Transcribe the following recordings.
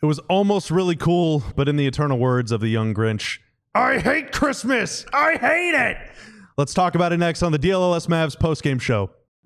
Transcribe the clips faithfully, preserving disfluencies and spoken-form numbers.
It was almost really cool, but in the eternal words of the young Grinch, I hate Christmas. I hate it. Let's talk about it next on the D L L S Mavs postgame show.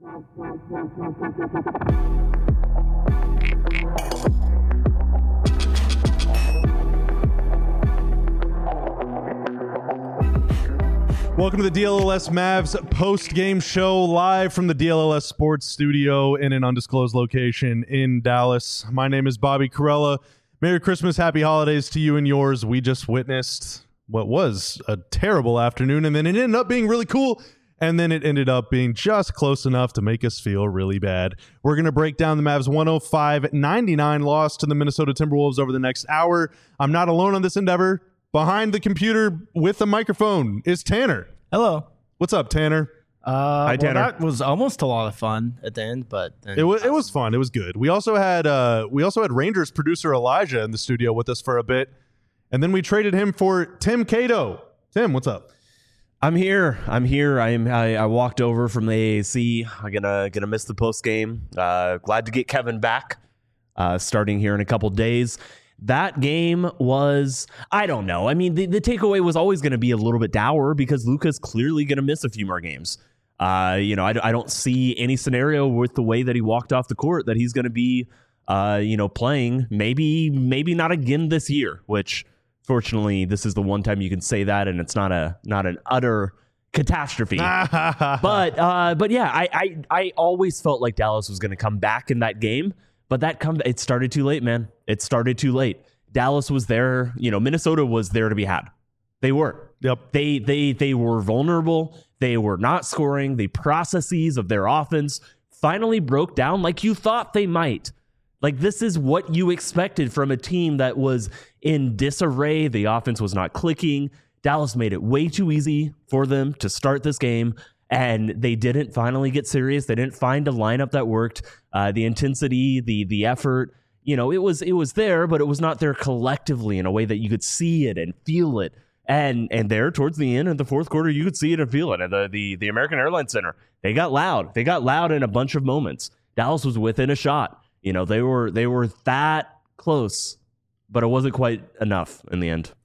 Welcome to the D L L S Mavs post-game show live from the D L L S Sports Studio in an undisclosed location in Dallas. My name is Bobby Carella. Merry Christmas, happy holidays to you and yours. We just witnessed what was a terrible afternoon, and then it ended up being really cool, and then it ended up being just close enough to make us feel really bad. We're going to break down the Mavs one oh five ninety-nine loss to the Minnesota Timberwolves over the next hour. I'm not alone on this endeavor. Behind the computer with the microphone is Tanner. Hello. What's up, Tanner? Uh, Hi, well, Tanner. that was almost a lot of fun at the end, but then It was it was fun. It was good. We also had uh, we also had Rangers producer Elijah in the studio with us for a bit, and then we traded him for Tim Cato. Tim, what's up? I'm here. I'm here. I am. I, I walked over from the A A C. I'm gonna gonna miss the post game. Uh, glad to get Kevin back. Uh, starting here in a couple days. That game was, I don't know. I mean, the, the takeaway was always going to be a little bit dour because Luka's clearly going to miss a few more games. Uh, you know, I, I don't see any scenario with the way that he walked off the court that he's going to be, uh, you know, playing. Maybe, maybe not again this year. Which, fortunately, this is the one time you can say that, and it's not a not an utter catastrophe. but, uh, but yeah, I, I I always felt like Dallas was going to come back in that game. But that come it started too late, man. It started too late. Dallas was there, you know, Minnesota was there to be had. They were. Yep. They they they were vulnerable. They were not scoring. The processes of their offense finally broke down like you thought they might. Like, this is what you expected from a team that was in disarray. The offense was not clicking. Dallas made it way too easy for them to start this game. And they didn't finally get serious. They didn't find a lineup that worked. Uh, the intensity, the the effort, you know, it was it was there, but it was not there collectively in a way that you could see it and feel it. And and there towards the end of the fourth quarter, you could see it and feel it. And the the the American Airlines Center, they got loud. They got loud in a bunch of moments. Dallas was within a shot. You know, they were they were that close, but it wasn't quite enough in the end.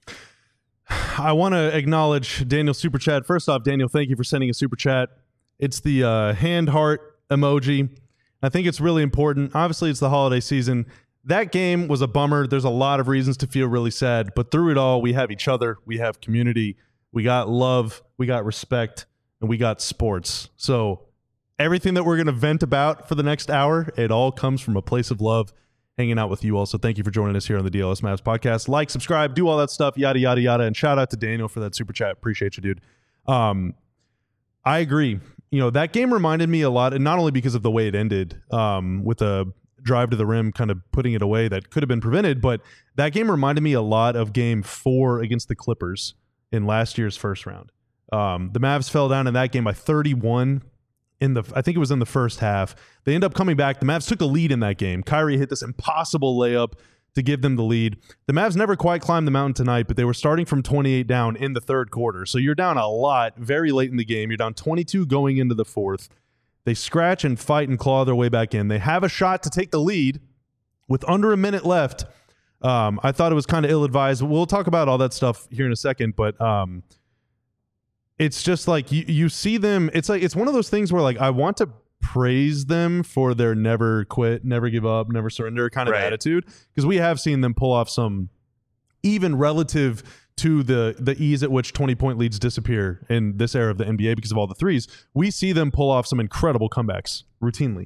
I want to acknowledge Daniel's super chat. First off, Daniel, thank you for sending a super chat. It's the uh, hand heart emoji. I think it's really important. Obviously, it's the holiday season. That game was a bummer. There's a lot of reasons to feel really sad, but through it all, we have each other. We have community. We got love. We got respect, and we got sports. So everything that we're going to vent about for the next hour, it all comes from a place of love. Hanging out with you all. So thank you for joining us here on the D L S Mavs podcast. Like, subscribe, do all that stuff, yada, yada, yada. And shout out to Daniel for that super chat. Appreciate you, dude. Um, I agree. You know, that game reminded me a lot, and not only because of the way it ended um, with a drive to the rim, kind of putting it away that could have been prevented, but that game reminded me a lot of game four against the Clippers in last year's first round. Um, the Mavs fell down in that game by thirty-one. In the, I think it was in the first half. They end up coming back. The Mavs took a lead in that game. Kyrie hit this impossible layup to give them the lead. The Mavs never quite climbed the mountain tonight, but they were starting from twenty-eight down in the third quarter. So you're down a lot very late in the game. You're down twenty-two going into the fourth. They scratch and fight and claw their way back in. They have a shot to take the lead with under a minute left. Um, I thought it was kind of ill-advised. We'll talk about all that stuff here in a second, but um, it's just like you, you see them. It's like it's one of those things where like I want to praise them for their never quit, never give up, never surrender kind of Right. attitude, because we have seen them pull off some, even relative to the the ease at which twenty-point leads disappear in this era of the N B A because of all the threes. We see them pull off some incredible comebacks routinely.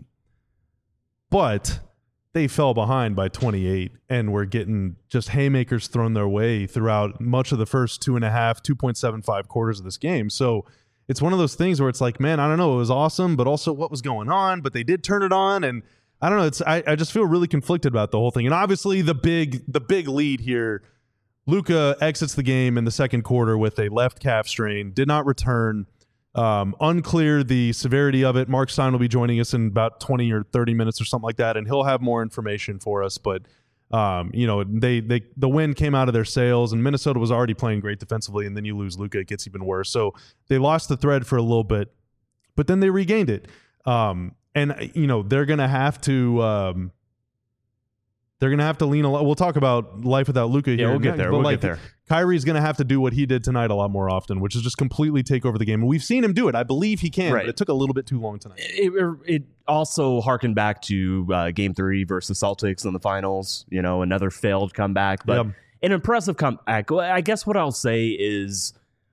But they fell behind by twenty-eight and were getting just haymakers thrown their way throughout much of the first two and a half, two point seven five quarters of this game. So it's one of those things where it's like, man, I don't know, it was awesome, but also what was going on? But they did turn it on, and I don't know. It's I, I just feel really conflicted about the whole thing. And obviously the big the big lead here, Luka exits the game in the second quarter with a left calf strain, did not return. Um, unclear the severity of it. Mark Stein will be joining us in about twenty or thirty minutes or something like that, and he'll have more information for us. But um, you know, they they the win came out of their sails, and Minnesota was already playing great defensively, and then you lose Luka, it gets even worse. So they lost the thread for a little bit, but then they regained it. Um, and you know, they're gonna have to um, They're going to have to lean a lot. We'll talk about life without Luka Yeah, here. we'll get next, there. but We'll like, get there. Kyrie's going to have to do what he did tonight a lot more often, which is just completely take over the game. And we've seen him do it. I believe he can, Right. but it took a little bit too long tonight. It, it, it also harkened back to uh, game three versus Celtics in the finals, you know, another failed comeback, but Yep. an impressive comeback. I guess what I'll say is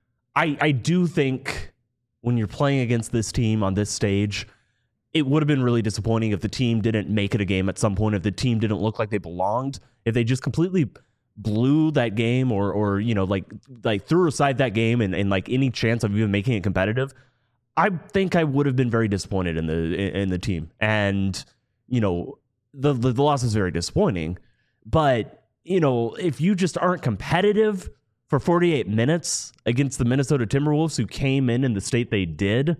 I, I do think when you're playing against this team on this stage, it would have been really disappointing if the team didn't make it a game at some point, if the team didn't look like they belonged, if they just completely blew that game or, or you know, like like threw aside that game and, and like any chance of even making it competitive. I think I would have been very disappointed in the in, in the team. And, you know, the, the the loss is very disappointing. But, you know, if you just aren't competitive for forty-eight minutes against the Minnesota Timberwolves, who came in in the state they did,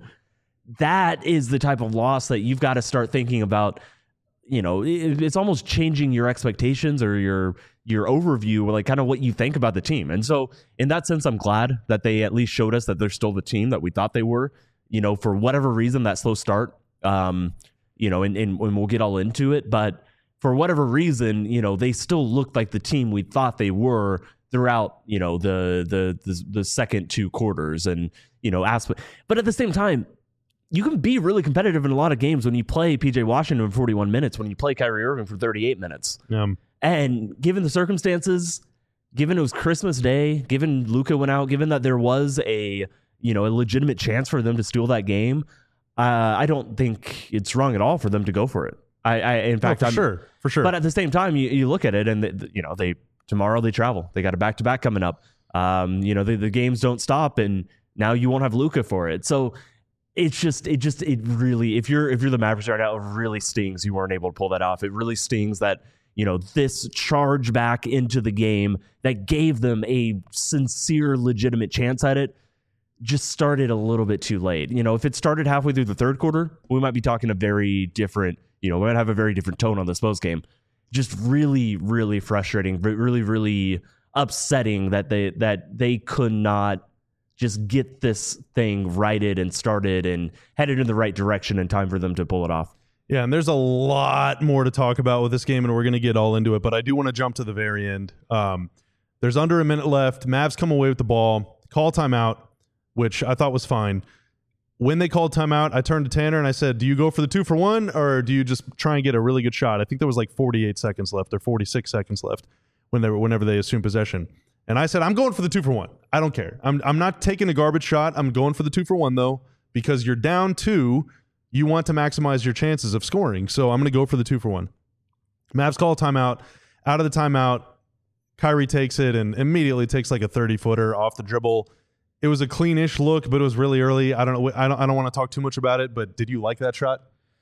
that is the type of loss that you've got to start thinking about. You know, it, it's almost changing your expectations or your your overview, or like kind of what you think about the team. And so in that sense, I'm glad that they at least showed us that they're still the team that we thought they were. You know, for whatever reason, that slow start, um, you know, and, and, and we'll get all into it. But for whatever reason, you know, they still looked like the team we thought they were throughout, you know, the the the, the second two quarters and, you know, aspect. But at the same time, you can be really competitive in a lot of games when you play P J Washington for forty-one minutes, when you play Kyrie Irving for thirty-eight minutes. Um, And given the circumstances, given it was Christmas Day, given Luka went out, given that there was a, you know, a legitimate chance for them to steal that game, uh, I don't think it's wrong at all for them to go for it. I, I in fact, no, for I'm, sure, for sure. But at the same time, you, you look at it, and the, you know, they tomorrow they travel. They got a back to back coming up. Um, you know, the, the games don't stop, and now you won't have Luka for it. So it's just, it just, it really, if you're if you're the Mavericks right now, it really stings you weren't able to pull that off. It really stings that, you know, this charge back into the game that gave them a sincere, legitimate chance at it just started a little bit too late. You know, if it started halfway through the third quarter, we might be talking a very different, you know, we might have a very different tone on this post game. Just really, really frustrating, really, really upsetting that they that they could not just get this thing righted and started and headed in the right direction in time for them to pull it off. Yeah, and there's a lot more to talk about with this game, and we're going to get all into it, but I do want to jump to the very end. Um, there's under a minute left. Mavs come away with the ball, call timeout, which I thought was fine. When they called timeout, I turned to Tanner and I said, do you go for the two for one, or do you just try and get a really good shot? I think there was like forty-eight seconds left or forty-six seconds left when they were, whenever they assumed possession. And I said, I'm going for the two for one. I don't care. I'm I'm not taking a garbage shot. I'm going for the two for one, though, because you're down two. You want to maximize your chances of scoring. So I'm going to go for the two for one. Mavs call timeout. Out of the timeout, Kyrie takes it and immediately takes like a thirty-footer off the dribble. It was a cleanish look, but it was really early. I don't know. I don't, I don't want to talk too much about it, but did you like that shot?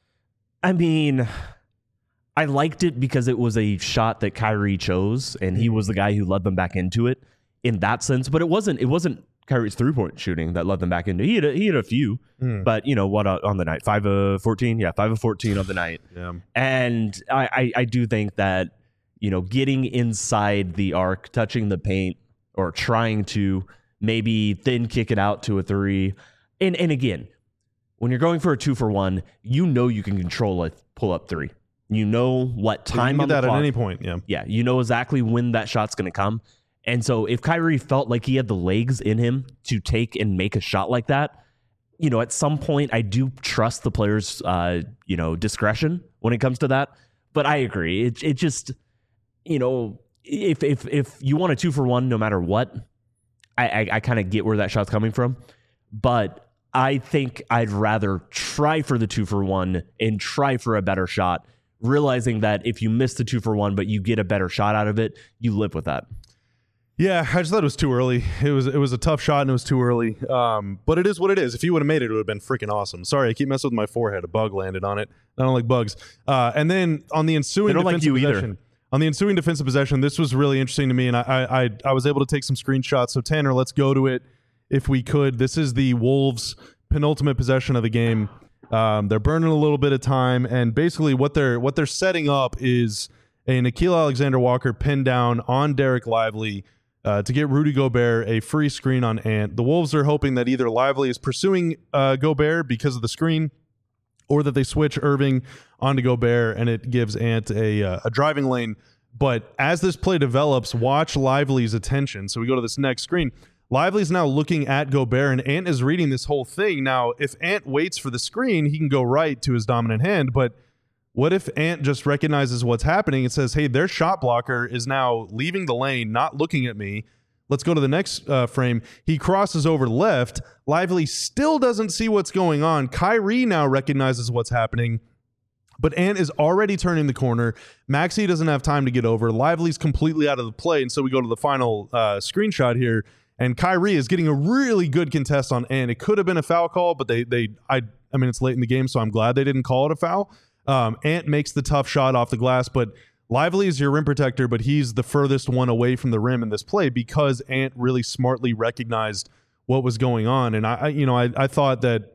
I mean, I liked it because it was a shot that Kyrie chose, and he was the guy who led them back into it in that sense. But it wasn't it wasn't Kyrie's three-point shooting that led them back into it. He had a, he had a few, mm. but, you know, what uh, on the night? five of fourteen? Yeah, five of fourteen on the night. Yeah. And I, I, I do think that, you know, getting inside the arc, touching the paint, or trying to maybe then kick it out to a three. And and again, when you're going for a two for one, you know you can control a pull-up three. You know what time you can on get the that clock. At any point, yeah. Yeah, you know exactly when that shot's going to come. And so if Kyrie felt like he had the legs in him to take and make a shot like that, you know, at some point I do trust the player's, uh, you know, discretion when it comes to that. But I agree. It it just, you know, if if if you want a two for one, no matter what, I I, I kind of get where that shot's coming from. But I think I'd rather try for the two for one and try for a better shot, realizing that if you miss the two for one, but you get a better shot out of it, you live with that. Yeah, I just thought it was too early. It was it was a tough shot and it was too early. Um, but it is what it is. If you would have made it, it would have been freaking awesome. Sorry, I keep messing with my forehead. A bug landed on it. I don't like bugs. Uh, and then on the ensuing they don't defensive like you possession, either. on the ensuing defensive possession, this was really interesting to me, and I, I I I was able to take some screenshots. So Tanner, let's go to it if we could. This is the Wolves' penultimate possession of the game. Um, they're burning a little bit of time, and basically what they're what they're setting up is a Nickeil Alexander-Walker pin down on Derek Lively. Uh, to get Rudy Gobert a free screen on Ant. The Wolves are hoping that either Lively is pursuing uh, Gobert because of the screen, or that they switch Irving onto Gobert and it gives Ant a, uh, a driving lane But as this play develops, watch Lively's attention. So we go to this next screen. Lively's now looking at Gobert, and Ant is reading this whole thing. Now, if Ant waits for the screen, he can go right to his dominant hand. But what if Ant just recognizes what's happening and says, hey, their shot blocker is now leaving the lane, not looking at me. Let's go to the next uh, frame. He crosses over left. Lively still doesn't see what's going on. Kyrie now recognizes what's happening. But Ant is already turning the corner. Maxey doesn't have time to get over. Lively's completely out of the play. And so we go to the final uh, screenshot here. And Kyrie is getting a really good contest on Ant. It could have been a foul call, but they, they, I, I mean, it's late in the game, so I'm glad they didn't call it a foul. Um, Ant makes the tough shot off the glass, but Lively is your rim protector, but he's the furthest one away from the rim in this play because Ant really smartly recognized what was going on. And I, I you know, I, I thought that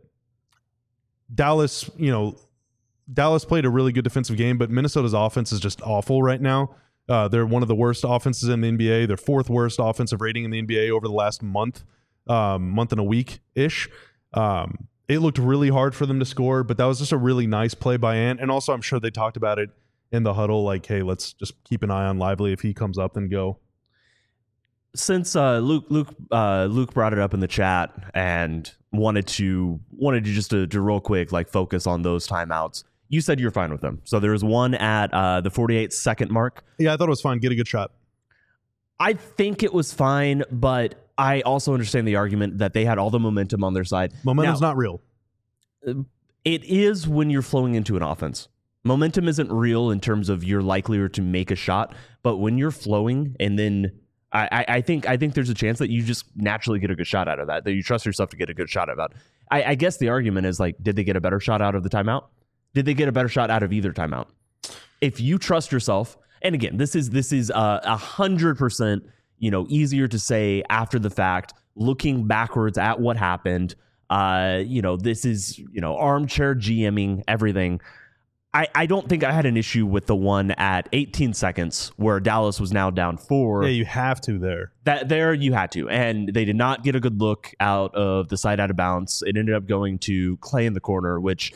Dallas, you know, Dallas played a really good defensive game, but Minnesota's offense is just awful right now. Uh, they're one of the worst offenses in the N B A. They're fourth worst offensive rating in the N B A over the last month, um, month and a week-ish. Um, it looked really hard for them to score, but that was just a really nice play by Ant. And also, I'm sure they talked about it in the huddle, like, hey, let's just keep an eye on Lively. If he comes up, then go. Since uh, Luke Luke uh, Luke brought it up in the chat and wanted to wanted to just to, to real quick like focus on those timeouts. You said you're fine with them. So there was one at uh, the forty-eight second mark. Yeah, I thought it was fine. Get a good shot. I think it was fine, but I also understand the argument that they had all the momentum on their side. Momentum's now, not real. It is when you're flowing into an offense. Momentum isn't real in terms of you're likelier to make a shot, but when you're flowing and then I, I think I think there's a chance that you just naturally get a good shot out of that, that you trust yourself to get a good shot out of that. I, I guess the argument is like, did they get a better shot out of the timeout? Did they get a better shot out of either timeout? If you trust yourself, and again, this is this is a hundred percent, you know, easier to say after the fact, looking backwards at what happened. Uh, you know, this is you know armchair GMing everything. I, I don't think I had an issue with the one at eighteen seconds where Dallas was now down four. Yeah, you have to there. That there you had to, and they did not get a good look out of the side out of bounds. It ended up going to Clay in the corner, which.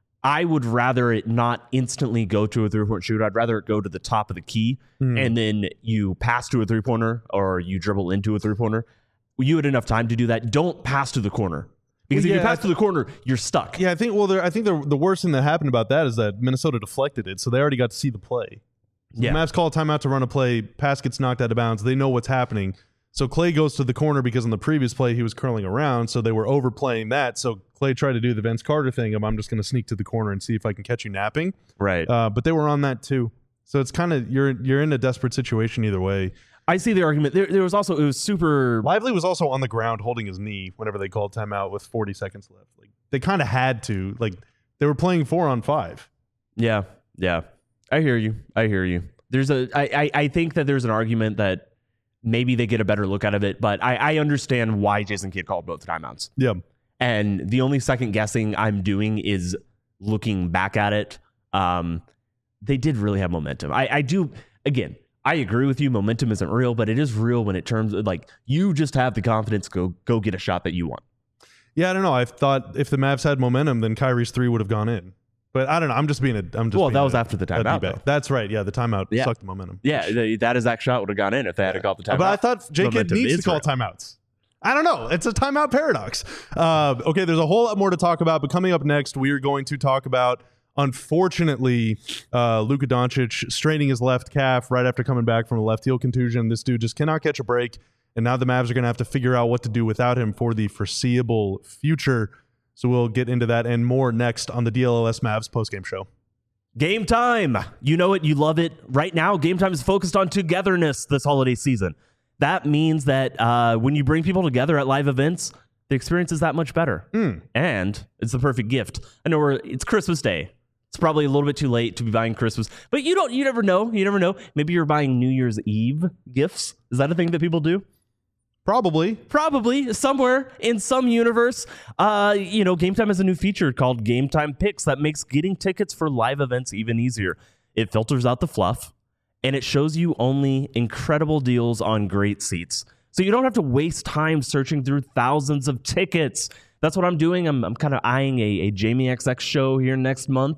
I would rather it not instantly go to a three-point shooter. I'd rather it go to the top of the key, mm. and then you pass to a three-pointer or you dribble into a three-pointer. You had enough time to do that. Don't pass to the corner. Because well, if yeah, you pass to the corner, you're stuck. Yeah, I think, well, I think the, the worst thing that happened about that is that Minnesota deflected it, so they already got to see the play. So yeah. The Mavs call a timeout to run a play, pass gets knocked out of bounds. They know what's happening. So Clay goes to the corner because on the previous play he was curling around, so they were overplaying that. So Clay tried to do the Vince Carter thing of I'm just going to sneak to the corner and see if I can catch you napping. Right. Uh, but they were on that too. So it's kind of you're you're in a desperate situation either way. I see the argument. There, there was also it was super. Lively was also on the ground holding his knee whenever they called timeout with forty seconds left. Like they kind of had to. Like they were playing four on five. Yeah, yeah. I hear you. I hear you. There's a. I I, I think that there's an argument that. Maybe they get a better look out of it, but I, I understand why Jason Kidd called both timeouts. Yeah. And the only second guessing I'm doing is looking back at it. Um, they did really have momentum. I, I do, again, I agree with you. Momentum isn't real, but it is real when it terms of like you just have the confidence to go, go get a shot that you want. Yeah, I don't know. I thought if the Mavs had momentum, then Kyrie's three would have gone in. But I don't know. I'm just being a. I'm just. Well, being that was a, after the timeout. That's right. Yeah, the timeout yeah. sucked the momentum. Yeah, the, that exact shot would have gone in if they had yeah. called the timeout. But I thought J Kidd needs to call real. timeouts. I don't know. It's a timeout paradox. Uh, okay, there's a whole lot more to talk about. But coming up next, we are going to talk about, unfortunately, uh, Luka Doncic straining his left calf right after coming back from a left heel contusion. This dude just cannot catch a break, and now the Mavs are going to have to figure out what to do without him for the foreseeable future. So we'll get into that and more next on the D L L S Mavs postgame show. Game time. You know it. You love it. Right now, Game Time is focused on togetherness this holiday season. That means that uh, when you bring people together at live events, the experience is that much better. Mm. And it's the perfect gift. I know we're, it's Christmas Day. It's probably a little bit too late to be buying Christmas, but you don't, you never know. You never know. Maybe you're buying New Year's Eve gifts. Is that a thing that people do? Probably. Probably. Somewhere in some universe. Uh, you know, Game Time has a new feature called Game Time Picks that makes getting tickets for live events even easier. It filters out the fluff, and it shows you only incredible deals on great seats. So you don't have to waste time searching through thousands of tickets. That's what I'm doing. I'm, I'm kind of eyeing a, a Jamie X X show here next month.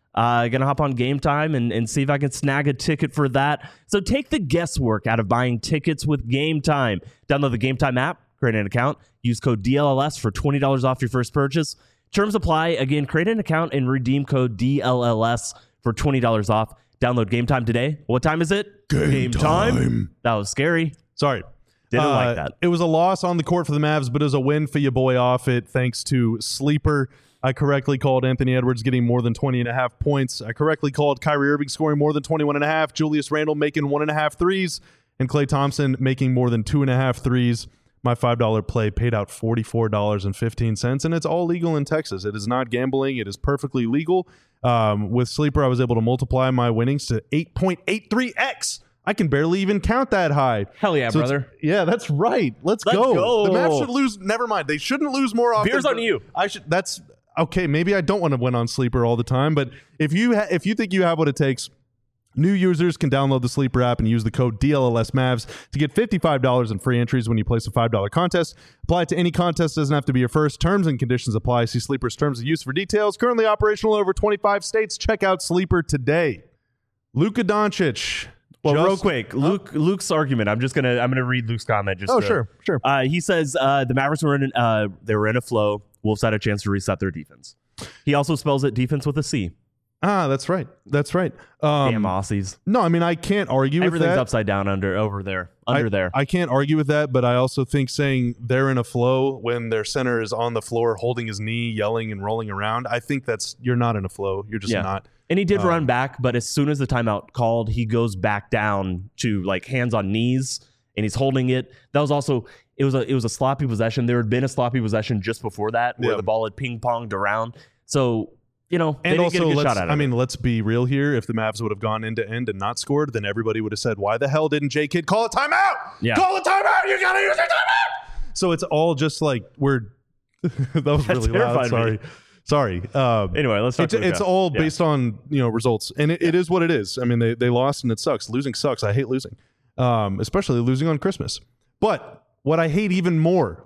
Uh, gonna hop on Game Time and, and see if I can snag a ticket for that. So take the guesswork out of buying tickets with Game Time. Download the Game Time app, create an account, use code D L L S for twenty dollars off your first purchase. Terms apply. Again, create an account and redeem code D L L S for twenty dollars off. Download Game Time today. What time is it? Game time. That was scary. Sorry. Didn't Uh, like that. It was a loss on the court for the Mavs, but it was a win for your boy off it thanks to Sleeper. I correctly called Anthony Edwards getting more than twenty and a half points. I correctly called Kyrie Irving scoring more than twenty-one and a half, Julius Randle making one and a half threes, and Klay Thompson making more than two and a half threes. My five dollar play paid out forty-four dollars and fifteen cents, and it's all legal in Texas. It is not gambling. It is perfectly legal. Um, with Sleeper, I was able to multiply my winnings to eight point eight three x. I can barely even count that high. Hell yeah, So it's- brother. Yeah, that's right. Let's, Let's go. go. The Mavs should lose. Never mind. They shouldn't lose more often. Beers on you. I should. That's okay. Maybe I don't want to win on Sleeper all the time, but if you ha- if you think you have what it takes, new users can download the Sleeper app and use the code D L L S Mavs to get fifty-five dollars in free entries when you place a five dollar contest. Apply it to any contest. Doesn't have to be your first. Terms and conditions apply. See Sleeper's terms of use for details. Currently operational in over twenty-five states. Check out Sleeper today. Luka Doncic. Well, just- real quick, Luke. Luke's argument. I'm just gonna. I'm gonna read Luke's comment. Just Oh, to- sure, sure. Uh, he says uh, the Mavericks were in. An, uh, they were in a flow. Wolves had a chance to reset their defense. He also spells it defense with a C. Ah, that's right. That's right. Um, Damn Aussies. No, I mean I can't argue with Everything's that. upside down under over there. Under I, there. I can't argue with that, but I also think saying they're in a flow when their center is on the floor holding his knee, yelling and rolling around, I think that's you're not in a flow. You're just Yeah. not. And he did Um, run back, but as soon as the timeout called, he goes back down to like hands on knees, and he's holding it. That was also it was a it was a sloppy possession. There had been a sloppy possession just before that where Yeah. the ball had ping ponged around. So you know, they And didn't also, get a good let's, shot out of I it. mean, let's be real here. If the Mavs would have gone end to end and not scored, then everybody would have said, "Why the hell didn't J Kidd call a timeout? Yeah. Call a timeout! You gotta use a timeout!" So it's all just like we're. that was That really loud. terrified me. Sorry. Sorry. Um, Anyway, let's talk It's, Luka. it's all Yeah. based on you know results, and it, it is what it is. I mean, they they lost and it sucks. Losing sucks. I hate losing, um, especially losing on Christmas. But what I hate even more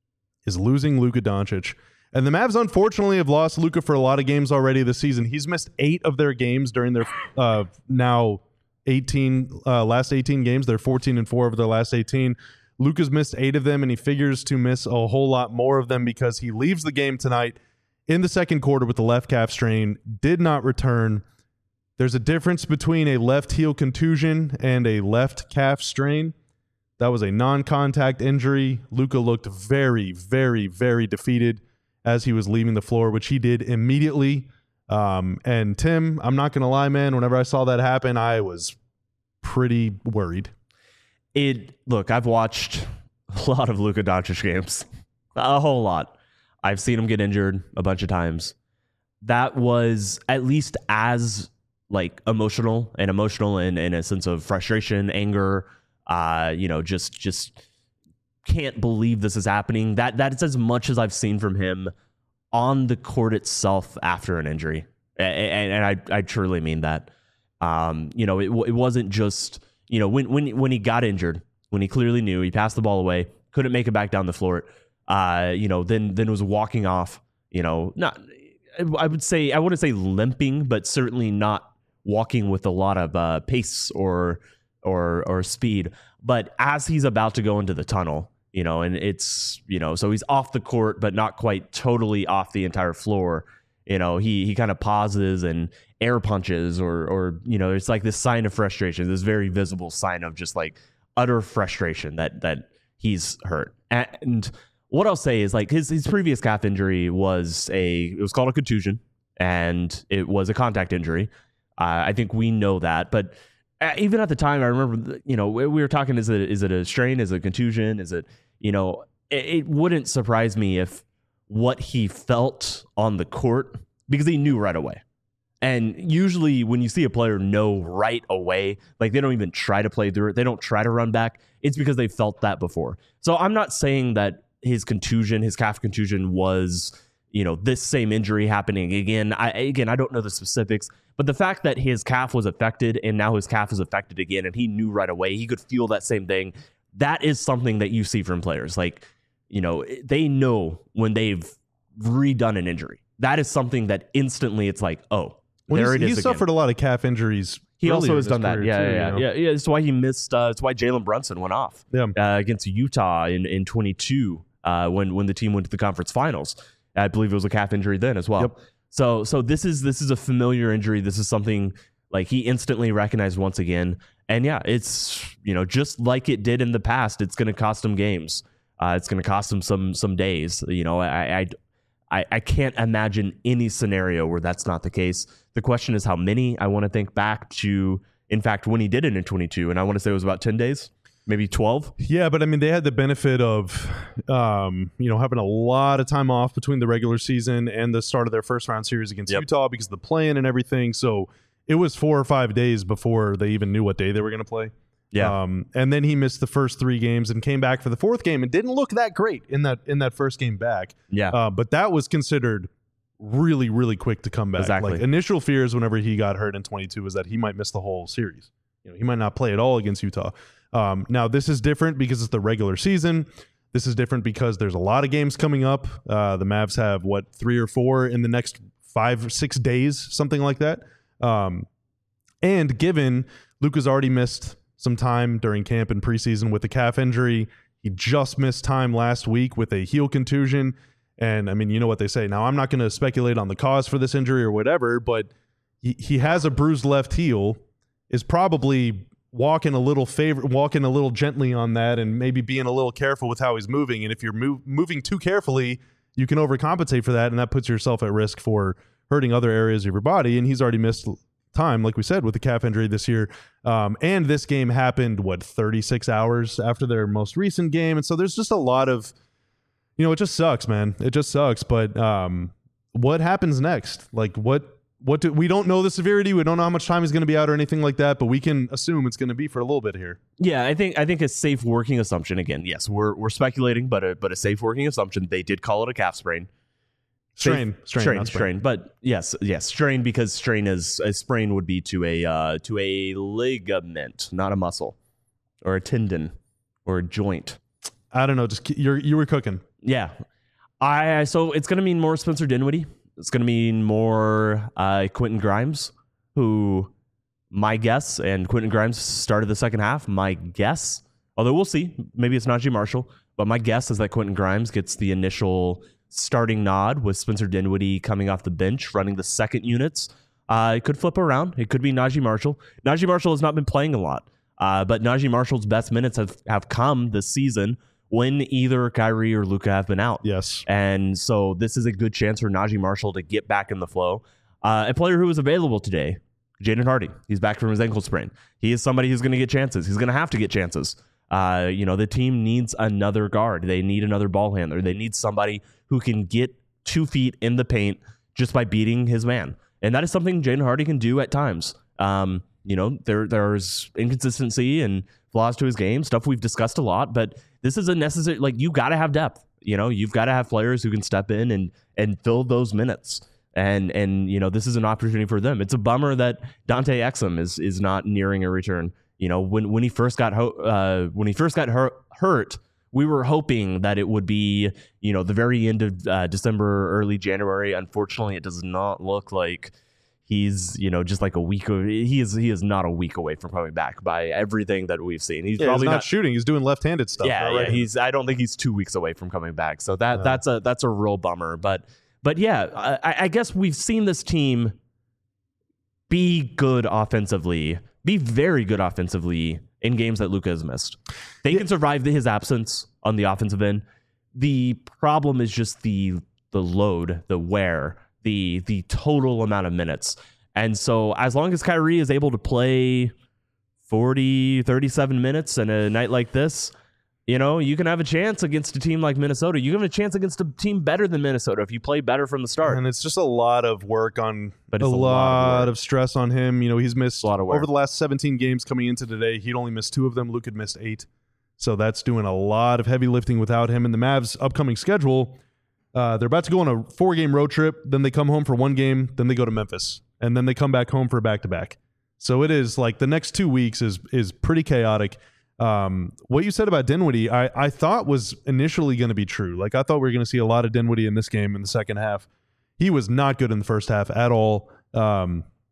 is losing Luka Doncic. And the Mavs, unfortunately, have lost Luka for a lot of games already this season. He's missed eight of their games during their uh, now eighteen uh, last eighteen games. They're fourteen and four of their last eighteen. Luka's missed eight of them, and he figures to miss a whole lot more of them because he leaves the game tonight in the second quarter with the left calf strain, did not return. There's a difference between a left heel contusion and a left calf strain. That was a non-contact injury. Luka looked very, very, very defeated as he was leaving the floor, which he did immediately. Um, and Tim, I'm not going to lie, man, whenever I saw that happen, I was pretty worried. It look, I've watched a lot of Luka Doncic games, a whole lot. I've seen him get injured a bunch of times. That was at least as like emotional and emotional in, in a sense of frustration, anger. Uh, you know, just just can't believe this is happening. That that's as much as I've seen from him on the court itself after an injury, and, and, and I I truly mean that. Um, you know, it it wasn't just. You know, when when when he got injured, when he clearly knew he passed the ball away, couldn't make it back down the floor, uh, you know, then then was walking off, you know, not I would say I wouldn't say limping, but certainly not walking with a lot of uh, pace or or or speed. But as he's about to go into the tunnel, you know, and it's, you know, so he's off the court, but not quite totally off the entire floor. You know, he he kind of pauses and air punches or, or, you know, it's like this sign of frustration, this very visible sign of just like utter frustration that that he's hurt. And what I'll say is like his his previous calf injury was a, it was called a contusion and it was a contact injury. Uh, I think we know that, but even at the time, I remember, you know, we were talking, is it is it a strain? Is it a contusion? Is it, you know, it, it wouldn't surprise me if what he felt on the court, because he knew right away. And usually when you see a player know right away, like they don't even try to play through it, they don't try to run back, it's because they felt that before. So I'm not saying that his contusion, his calf contusion was, you know, this same injury happening again. I again, I don't know the specifics, but the fact that his calf was affected and now his calf is affected again and he knew right away, he could feel that same thing. That is something that you see from players. Like, you know, they know when they've redone an injury. That is something that instantly it's like, oh, Well, there he's, it he's is again. suffered a lot of calf injuries. He also earlier has in his done that. career, Yeah, too, yeah, you yeah, know? yeah, yeah. That's why he missed. Uh, that's why Jalen Brunson went off Yeah. uh, against Utah in in twenty-two uh, when when the team went to the conference finals. I believe it was a calf injury then as well. Yep. So so this is this is a familiar injury. This is something like he instantly recognized once again. And yeah, it's, you know, just like it did in the past, it's going to cost him games. Uh, it's going to cost him some some days. You know, I, I I I can't imagine any scenario where that's not the case. The question is how many. I want to think back to, in fact, when he did it in twenty-two, and I want to say it was about ten days, maybe twelve. Yeah, but I mean, they had the benefit of, um, you know, having a lot of time off between the regular season and the start of their first round series against Yep. Utah because of the play-in and everything. So it was four or five days before they even knew what day they were going to play. Yeah. Um, and then he missed the first three games and came back for the fourth game and didn't look that great in that in that first game back. Yeah. Uh, but that was considered really, really quick to come back. Exactly. Like initial fears whenever he got hurt in twenty-two was that he might miss the whole series. You know, he might not play at all against Utah. Um, now this is different because it's the regular season. This is different because there's a lot of games coming up. Uh, the Mavs have what three or four in the next five or six days, something like that. Um, and given Luka's already missed some time during camp and preseason with the calf injury, he just missed time last week with a heel contusion. And I mean, you know what they say. Now, I'm not going to speculate on the cause for this injury or whatever, but he, he has a bruised left heel, is probably walking a little favor, walking a little gently on that, and maybe being a little careful with how he's moving. And if you're move, moving too carefully, you can overcompensate for that, and that puts yourself at risk for hurting other areas of your body. And he's already missed time, like we said, with the calf injury this year. Um, and this game happened, what, thirty-six hours after their most recent game. And so there's just a lot of, you know, it just sucks, man. It just sucks. But um, what happens next? Like, what, what do we don't know the severity. We don't know how much time he's going to be out or anything like that, but we can assume it's going to be for a little bit here. Yeah, I think I think a safe working assumption. Again, yes, we're we're speculating, but a but a safe working assumption. They did call it a calf sprain. Strain, Safe- strain, strain, not sprain. strain. But yes, yes, strain because strain is a sprain would be to a uh, to a ligament, not a muscle, or a tendon, or a joint. I don't know. Just ke- you're you were cooking. Yeah, I so it's going to mean more Spencer Dinwiddie. It's going to mean more uh, Quentin Grimes, who my guess, and Quentin Grimes started the second half. My guess, although we'll see, maybe it's Najee Marshall, but my guess is that Quentin Grimes gets the initial starting nod with Spencer Dinwiddie coming off the bench, running the second units. Uh, it could flip around. It could be Najee Marshall. Najee Marshall has not been playing a lot, uh, but Najee Marshall's best minutes have, have come this season when either Kyrie or Luka have been out. Yes. And so this is a good chance for Najee Marshall to get back in the flow. Uh, a player who was available today, Jaden Hardy. He's back from his ankle sprain. He is somebody who's going to get chances. He's going to have to get chances. Uh, you know, the team needs another guard. They need another ball handler. They need somebody who can get two feet in the paint just by beating his man. And that is something Jaden Hardy can do at times. Um, you know, there there's inconsistency and flaws to his game, stuff we've discussed a lot, but this is a necessary, like, you got to have depth. You know, you've got to have players who can step in and and fill those minutes. And, and you know, this is an opportunity for them. It's a bummer that Dante Exum is is not nearing a return. You know, when when he first got ho- uh, when he first got hurt, hurt, we were hoping that it would be, you know, the very end of uh, December, early January. Unfortunately, it does not look like he's, you know, just like a week. Of, he is he is not a week away from coming back by everything that we've seen. He's Yeah, probably he's not, not shooting. He's doing left-handed stuff. Yeah, not yeah. right-handed. He's. I don't think he's two weeks away from coming back. So that No. that's a that's a real bummer. But but yeah, I, I guess we've seen this team be good offensively, be very good offensively in games that Luka has missed. They Yeah. can survive his absence on the offensive end. The problem is just the the load, the wear, the the total amount of minutes. And so as long as Kyrie is able to play forty, thirty-seven minutes in a night like this, you know, you can have a chance against a team like Minnesota. You can have a chance against a team better than Minnesota if you play better from the start. And it's just a lot of work on, But a, it's a lot lot, of work. of stress on him. You know, he's missed a lot of work. over the last seventeen games coming into today. He'd only missed two of them. Luke had missed eight. So that's doing a lot of heavy lifting without him. And the Mavs' upcoming schedule, uh, they're about to go on a four-game road trip. Then they come home for one game. Then they go to Memphis. And then they come back home for a back-to-back. So it is like the next two weeks is is pretty chaotic. Um, what you said about Dinwiddie, I, I thought was initially going to be true. Like, I thought we were going to see a lot of Dinwiddie in this game in the second half. He was not good in the first half at all. Um,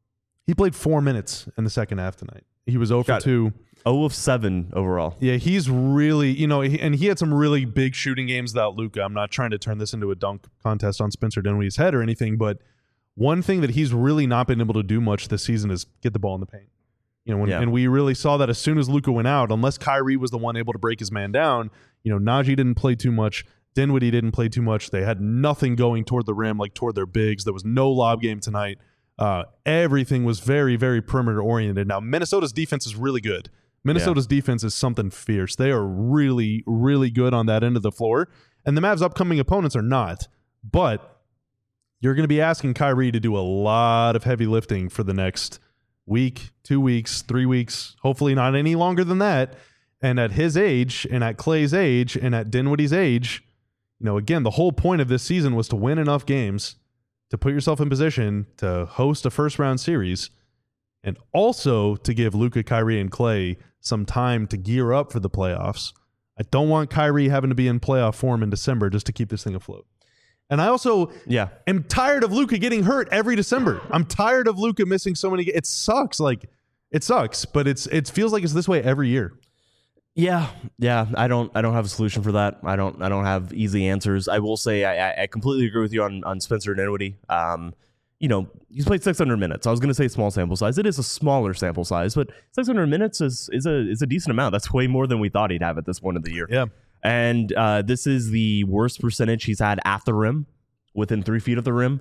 He played four minutes in the second half tonight. He was zero for Got it. two. zero of seven overall. Yeah, he's really, you know, he, and he had some really big shooting games without Luka. I'm not trying to turn this into a dunk contest on Spencer Dinwiddie's head or anything, but one thing that he's really not been able to do much this season is get the ball in the paint. You know, when, Yeah. and we really saw that as soon as Luka went out, unless Kyrie was the one able to break his man down, you know, Najee didn't play too much. Dinwiddie didn't play too much. They had nothing going toward the rim, like toward their bigs. There was no lob game tonight. Uh, everything was very, very perimeter oriented. Now, Minnesota's defense is really good. Minnesota's yeah. defense is something fierce. They are really, really good on that end of the floor. And the Mavs' upcoming opponents are not. But you're going to be asking Kyrie to do a lot of heavy lifting for the next week, two weeks, three weeks, hopefully not any longer than that. And at his age, and at Clay's age, and at Dinwiddie's age, you know, again, the whole point of this season was to win enough games to put yourself in position to host a first-round series, and also to give Luka, Kyrie, and Clay some time to gear up for the playoffs. I don't want Kyrie having to be in playoff form in December just to keep this thing afloat. And I also yeah. am tired of Luka getting hurt every December. I'm tired of Luka missing so many. It sucks. Like, it sucks, but it's it feels like it's this way every year. Yeah, yeah. I don't. I don't have a solution for that. I don't. I don't have easy answers. I will say I, I completely agree with you on on Spencer Dinwiddie. Um, you know, he's played six hundred minutes. I was going to say small sample size. It is a smaller sample size, but six hundred minutes is is a is a decent amount. That's way more than we thought he'd have at this point of the year. Yeah. And uh, this is the worst percentage he's had at the rim, within three feet of the rim,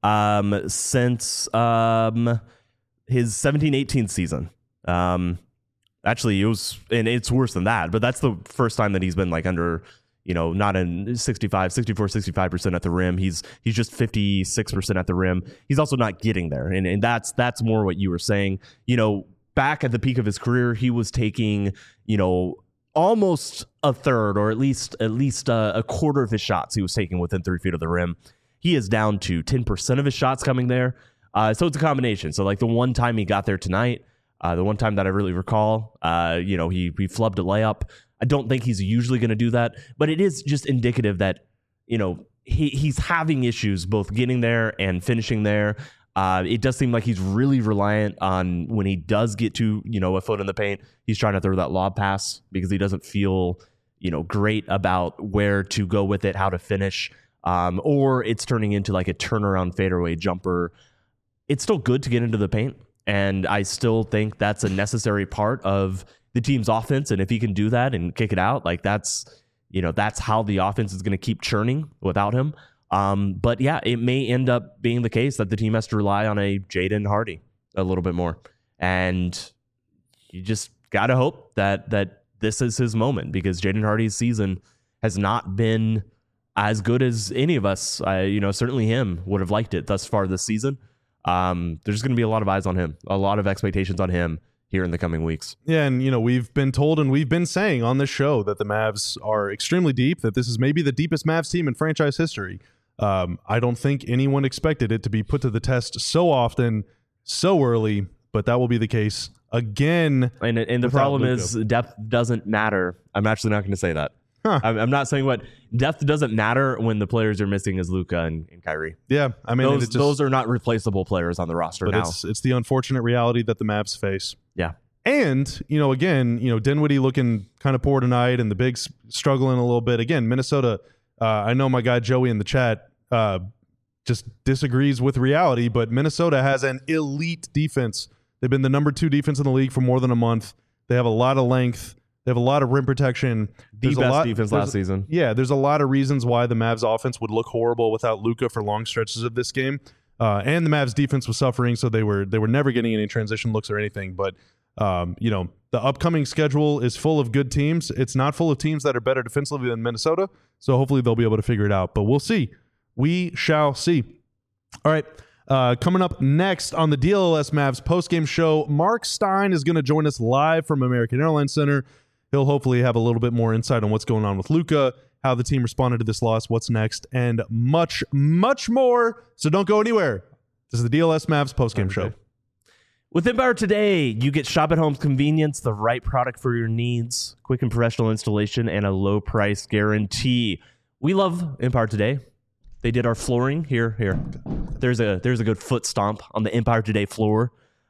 um, since um, his seventeen eighteen season. Um, actually, it was, and it's worse than that, but that's the first time that he's been like under, you know, not in sixty-five, sixty-four, sixty-five percent at the rim. He's he's just fifty-six percent at the rim. He's also not getting there, and and that's that's more what you were saying. You know, back at the peak of his career, he was taking, you know, almost a third, or at least at least a, a quarter of his shots he was taking within three feet of the rim. He is down to ten percent of his shots coming there. Uh, so it's a combination. So like the one time he got there tonight, uh, the one time that I really recall, uh, you know, he he flubbed a layup. I don't think he's usually going to do that, but it is just indicative that, you know, he he's having issues both getting there and finishing there. Uh, it does seem like he's really reliant on when he does get to, you know, a foot in the paint, he's trying to throw that lob pass because he doesn't feel, you know, great about where to go with it, how to finish, um, or it's turning into like a turnaround fadeaway jumper. It's still good to get into the paint, and I still think that's a necessary part of the team's offense. And if he can do that and kick it out, like that's, you know, that's how the offense is going to keep churning without him. Um, but yeah, it may end up being the case that the team has to rely on a Jaden Hardy a little bit more. And you just got to hope that that this is his moment, because Jaden Hardy's season has not been as good as any of us, uh, you know, certainly him, would have liked it thus far this season. Um, there's going to be a lot of eyes on him, a lot of expectations on him here in the coming weeks. Yeah, and you know, we've been told and we've been saying on this show that the Mavs are extremely deep, that this is maybe the deepest Mavs team in franchise history. Um, I don't think anyone expected it to be put to the test so often, so early, but that will be the case again. And and the problem Luka. is depth doesn't matter. I'm actually not going to say that. Huh. I'm, I'm not saying what depth doesn't matter when the players are missing as Luka and, and Kyrie. Yeah, I mean, those just, those are not replaceable players on the roster but now. It's, it's the unfortunate reality that the Mavs face. Yeah. And, you know, again, you know, Dinwiddie looking kind of poor tonight, and the bigs struggling a little bit. Again, Minnesota, uh, I know my guy Joey in the chat uh, just disagrees with reality, but Minnesota has an elite defense. They've been the number two defense in the league for more than a month. They have a lot of length. They have a lot of rim protection. The there's best a lot, defense last season. Yeah, there's a lot of reasons why the Mavs offense would look horrible without Luka for long stretches of this game. Uh, and the Mavs defense was suffering, so they were they were never getting any transition looks or anything. But um, you know, the upcoming schedule is full of good teams. It's not full of teams that are better defensively than Minnesota. So hopefully they'll be able to figure it out. But we'll see. We shall see. All right. Uh, coming up next on the D L L S Mavs postgame show, Mark Stein is going to join us live from American Airlines Center. He'll hopefully have a little bit more insight on what's going on with Luka, how the team responded to this loss, what's next, and much, much more. So don't go anywhere. This is the D L S Mavs postgame show. With Empire Today, you get shop at home's convenience, the right product for your needs, quick and professional installation, and a low price guarantee. We love Empire Today. They did our flooring here. Here, there's a there's a good foot stomp on the Empire Today floor.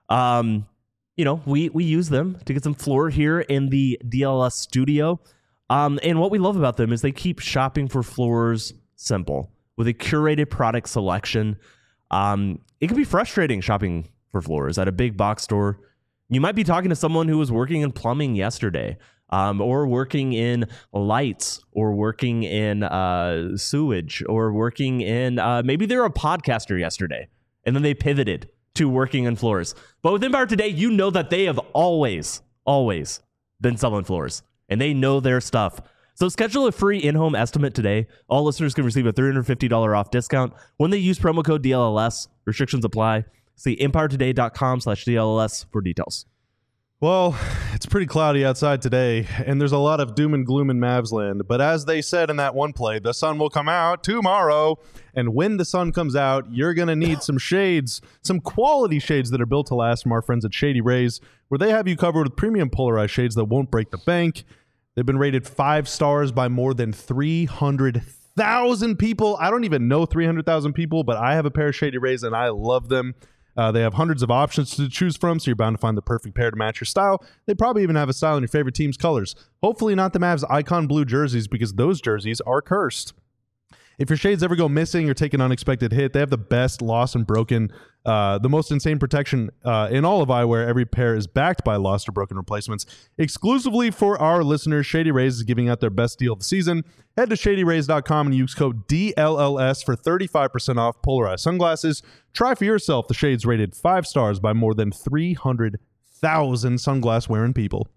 Um, you know, we we use them to get some floor here in the D L S studio. Um, and what we love about them is they keep shopping for floors simple with a curated product selection. Um, it can be frustrating shopping for floors at a big box store. You might be talking to someone who was working in plumbing yesterday, um, or working in lights, or working in uh, sewage, or working in uh, maybe they're a podcaster yesterday, and then they pivoted to working in floors. But with Empire Today, you know that they have always, always been selling floors, and they know their stuff. So schedule a free in-home estimate today. All listeners can receive a three hundred fifty dollars off discount when they use promo code D L L S. Restrictions apply. See empire today dot com slash D L L S for details. Well, it's pretty cloudy outside today, and there's a lot of doom and gloom in Mavs land. But as they said in that one play, the sun will come out tomorrow. And when the sun comes out, you're going to need some shades, some quality shades that are built to last from our friends at Shady Rays, where they have you covered with premium polarized shades that won't break the bank. They've been rated five stars by more than three hundred thousand people. I don't even know three hundred thousand people, but I have a pair of Shady Rays, and I love them. Uh, they have hundreds of options to choose from, so you're bound to find the perfect pair to match your style. They probably even have a style in your favorite team's colors. Hopefully not the Mavs icon blue jerseys, because those jerseys are cursed. If your shades ever go missing or take an unexpected hit, they have the best lost and broken, uh, the most insane protection uh, in all of eyewear. Every pair is backed by lost or broken replacements. Exclusively for our listeners, Shady Rays is giving out their best deal of the season. Head to shady rays dot com and use code D L L S for thirty-five percent off polarized sunglasses. Try for yourself the shades rated five stars by more than three hundred thousand sunglass-wearing people.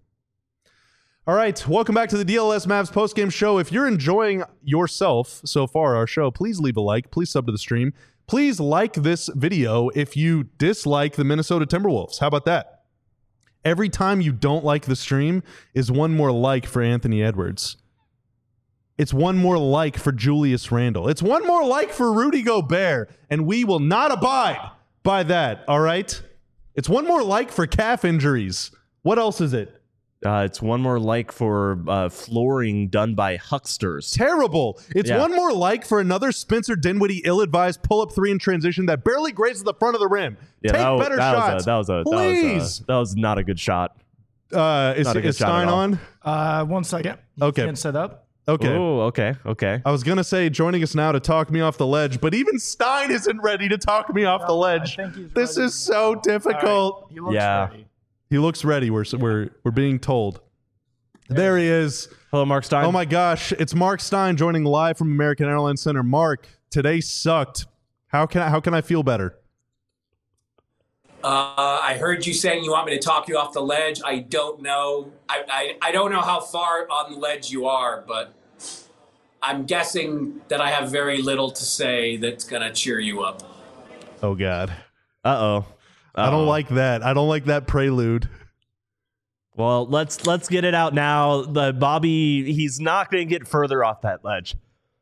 All right, welcome back to the D L S Mavs postgame show. If you're enjoying yourself so far, our show, please leave a like. Please sub to the stream. Please like this video if you dislike the Minnesota Timberwolves. How about that? Every time you don't like the stream is one more like for Anthony Edwards. It's one more like for Julius Randle. It's one more like for Rudy Gobert, and we will not abide by that, all right? It's one more like for calf injuries. What else is it? Uh, it's one more like for uh, flooring done by hucksters. Terrible. It's Yeah. one more like for another Spencer Dinwiddie ill-advised pull-up three in transition that barely grazes the front of the rim. Yeah, Take that was, better that shots. Was a, that was a Please. That was, a, that was not a good shot. Uh, is Not a good is shot Stein at all. on? Uh, one second. You Okay. can set up. Okay. Oh, okay, okay. I was going to say joining us now to talk me off the ledge, but even Stein isn't ready to talk me off the ledge. I think he's This ready. is so difficult. All right. He looks Yeah. ready. He looks ready. We're, we're, we're being told. There he is. Hello, Mark Stein. Oh my gosh, it's Mark Stein joining live from American Airlines Center. Mark, today sucked. How can I, how can I feel better? Uh, I heard you saying you want me to talk you off the ledge. I don't know. I, I, I don't know how far on the ledge you are, but I'm guessing that I have very little to say that's going to cheer you up. Oh God. Uh-oh. I don't Uh-oh. like that. I don't like that prelude. Well, let's let's get it out now. The Bobby, he's not going to get further off that ledge.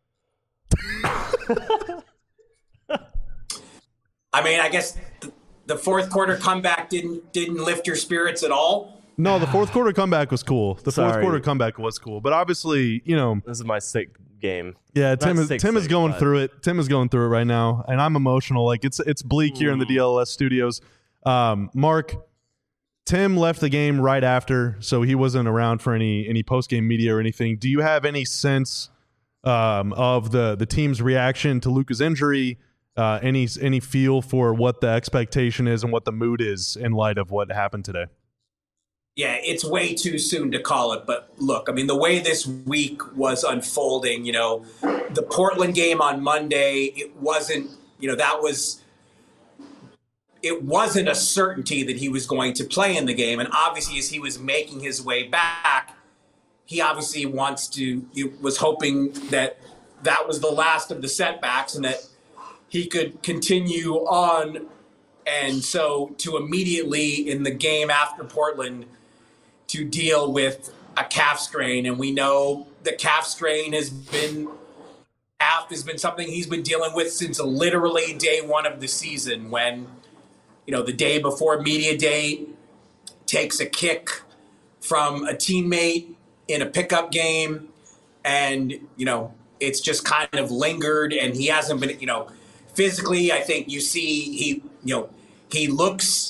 I mean, I guess th- the fourth quarter comeback didn't didn't lift your spirits at all. No, the fourth quarter comeback was cool. The fourth Sorry. quarter comeback was cool. But obviously, you know, This is my sick game. yeah, Tim Not is sick, Tim is sick, going but- through it. Tim is going through it right now, and I'm emotional. Like it's it's bleak here in the D L S studios. Um, Mark, Tim left the game right after, so he wasn't around for any any post game media or anything. Do you have any sense um, of the the team's reaction to Luka's injury? Uh, any any feel for what the expectation is and what the mood is in light of what happened today? Yeah, it's way too soon to call it. But look, I mean, the way this week was unfolding, you know, the Portland game on Monday, it wasn't, you know, that was, it wasn't a certainty that he was going to play in the game. And obviously, as he was making his way back, he obviously wants to, he was hoping that that was the last of the setbacks and that he could continue on. And so to immediately in the game after Portland to deal with a calf strain, and we know the calf strain has been calf has been something he's been dealing with since literally day one of the season, when, you know, the day before media day takes a kick from a teammate in a pickup game, and, you know, it's just kind of lingered, and he hasn't been, you know, physically, I think you see he, you know, he looks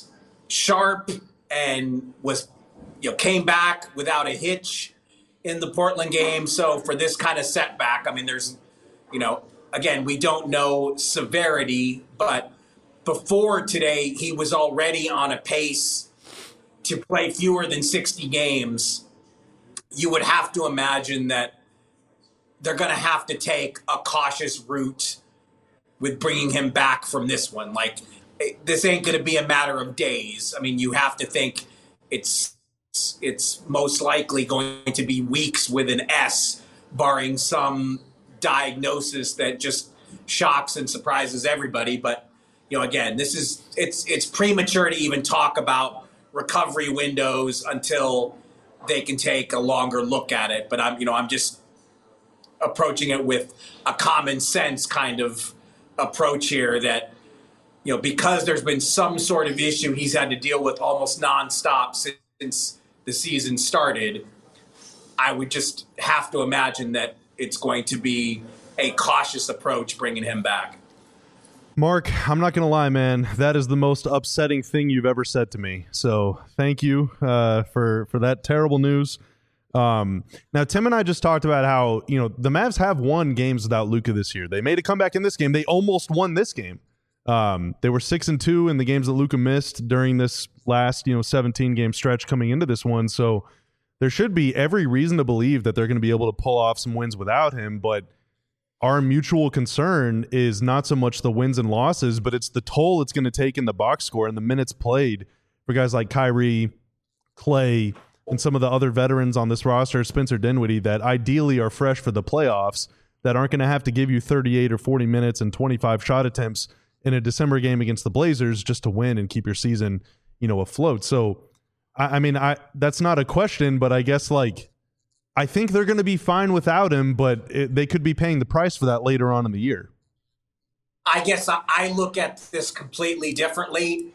sharp and was, you know, came back without a hitch in the Portland game. So for this kind of setback, I mean, there's, you know, again, we don't know severity, but before today, he was already on a pace to play fewer than sixty games. You would have to imagine that they're going to have to take a cautious route with bringing him back from this one. Like, this ain't going to be a matter of days. I mean, you have to think it's it's most likely going to be weeks with an S, barring some diagnosis that just shocks and surprises everybody. But, you know, again, this is it's it's premature to even talk about recovery windows until they can take a longer look at it. But I'm, you know, I'm just approaching it with a common sense kind of approach here that, you know, because there's been some sort of issue he's had to deal with almost nonstop since the season started, I would just have to imagine that it's going to be a cautious approach bringing him back. Mark, I'm not going to lie, man. That is the most upsetting thing you've ever said to me. So thank you uh, for, for that terrible news. Um, now, Tim and I just talked about how, you know, the Mavs have won games without Luka this year. They made a comeback in this game. They almost won this game. Um, they were six and two in the games that Luka missed during this last, you know, seventeen game stretch coming into this one. So there should be every reason to believe that they're going to be able to pull off some wins without him. But our mutual concern is not so much the wins and losses, but it's the toll it's going to take in the box score and the minutes played for guys like Kyrie, Clay, and some of the other veterans on this roster, Spencer Dinwiddie, that ideally are fresh for the playoffs, that aren't going to have to give you thirty-eight or forty minutes and twenty-five shot attempts in a December game against the Blazers just to win and keep your season, you know, afloat. So, I, I mean, I that's not a question, but I guess, like, I think they're going to be fine without him, but it, they could be paying the price for that later on in the year. I guess I, I look at this completely differently.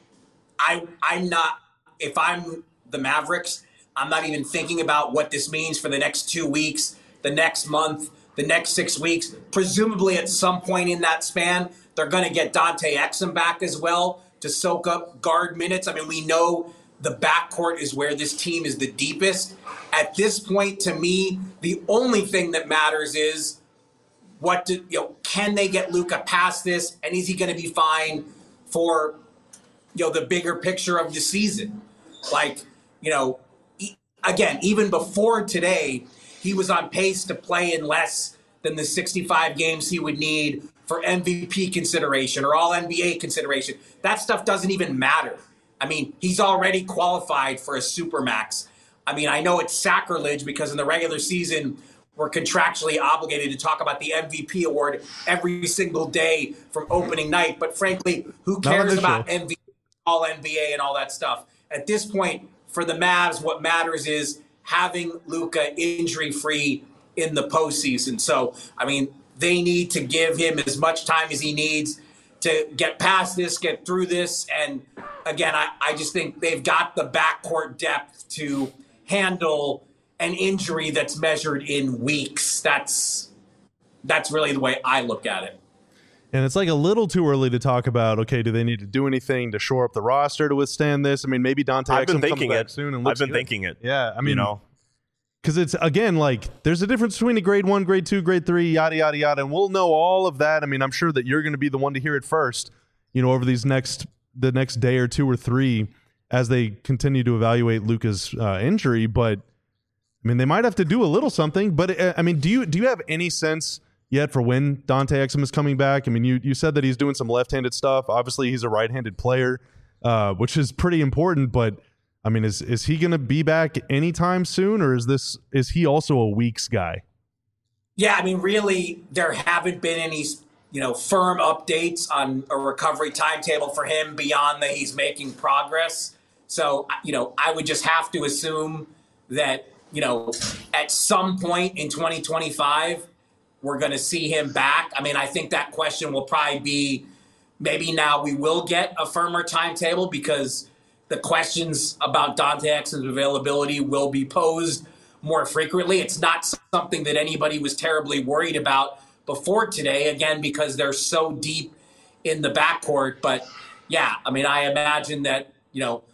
I I'm not, if I'm the Mavericks, I'm not even thinking about what this means for the next two weeks, the next month, the next six weeks. Presumably at some point in that span, they're going to get Dante Exum back as well to soak up guard minutes. I mean, we know the backcourt is where this team is the deepest. At this point, to me, the only thing that matters is what do, you know, can they get Luka past this, and is he going to be fine for, you know, the bigger picture of the season? Like, you know, again, even before today, he was on pace to play in less than the sixty-five games he would need for M V P consideration or all N B A consideration. That stuff doesn't even matter. I mean, he's already qualified for a supermax. I mean, I know it's sacrilege because in the regular season, we're contractually obligated to talk about the M V P award every single day from opening night. But frankly, who cares about M V P, all N B A and all that stuff? At this point, for the Mavs, what matters is having Luka injury-free in the postseason. So, I mean, they need to give him as much time as he needs to get past this, get through this. And again, I, I just think they've got the backcourt depth to handle an injury that's measured in weeks. That's that's really the way I look at it. And it's like a little too early to talk about, okay, do they need to do anything to shore up the roster to withstand this? I mean, maybe Dante I've been Exum comes thinking back it. soon and I've looks been good. thinking it. Yeah, I mean, you know, because it's, again, like, there's a difference between a grade one, grade two, grade three, yada, yada, yada, and we'll know all of that. I mean, I'm sure that you're going to be the one to hear it first, you know, over these next, the next day or two or three as they continue to evaluate Luka's uh, injury. But, I mean, they might have to do a little something. But, uh, I mean, do you do you have any sense yet for when Dante Exum is coming back? I mean, you, you said that he's doing some left-handed stuff. Obviously, he's a right-handed player, uh, which is pretty important, but I mean, is is he going to be back anytime soon, or is this is he also a weeks guy? Yeah, I mean, really, there haven't been any, you know, firm updates on a recovery timetable for him beyond that he's making progress. So, you know, I would just have to assume that, you know, at some point in twenty twenty-five, we're going to see him back. I mean, I think that question will probably be maybe now we will get a firmer timetable because the questions about Dante Exum's availability will be posed more frequently. It's not something that anybody was terribly worried about before today, again, because they're so deep in the backcourt. But, yeah, I mean, I imagine that, you know,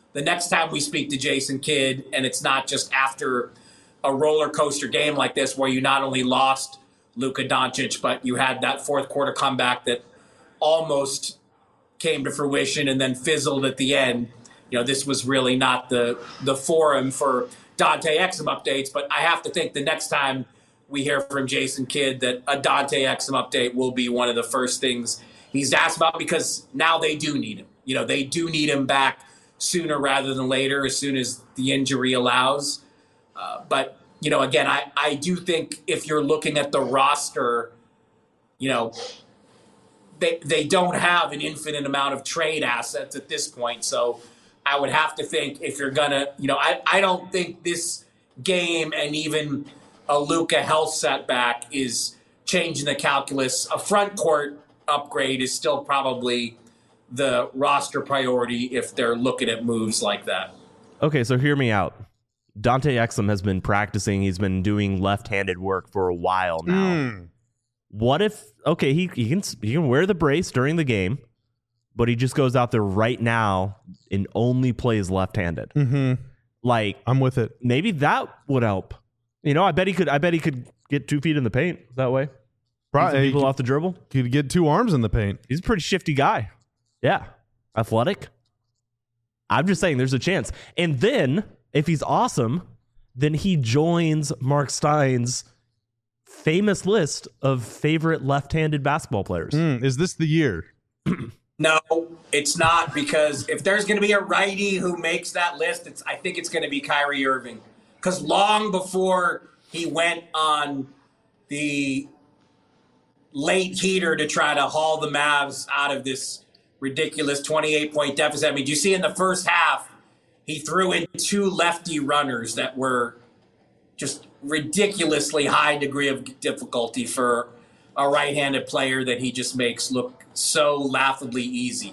the next time we speak to Jason Kidd, and it's not just after a roller coaster game like this where you not only lost Luka Doncic, but you had that fourth quarter comeback that almost came to fruition and then fizzled at the end. You know, this was really not the the forum for Dante Exum updates, but I have to think the next time we hear from Jason Kidd that a Dante Exum update will be one of the first things he's asked about, because now they do need him. You know, they do need him back sooner rather than later, as soon as the injury allows. Uh, but, you know, again, I, I do think if you're looking at the roster, you know, they they don't have an infinite amount of trade assets at this point. So I would have to think if you're going to, you know, I, I don't think this game and even a Luka health setback is changing the calculus. A front court upgrade is still probably the roster priority if they're looking at moves like that. Okay, so hear me out. Dante Exum has been practicing. He's been doing left-handed work for a while now. Mm. What if, okay, he, he can he can wear the brace during the game, but he just goes out there right now and only plays left-handed. Mm-hmm. Like, I'm with it. Maybe that would help. You know, I bet he could. I bet he could get two feet in the paint that way. Probably people off the dribble. Could get two arms in the paint. He's a pretty shifty guy. Yeah, athletic. I'm just saying, there's a chance. And then, if he's awesome, then he joins Mark Stein's famous list of favorite left-handed basketball players. Mm, is this the year? No, it's not, because if there's going to be a righty who makes that list, it's I think it's going to be Kyrie Irving. Because long before he went on the late heater to try to haul the Mavs out of this ridiculous twenty-eight point deficit. I mean, do you see in the first half, he threw in two lefty runners that were just ridiculously high degree of difficulty for a right-handed player that he just makes look so laughably easy.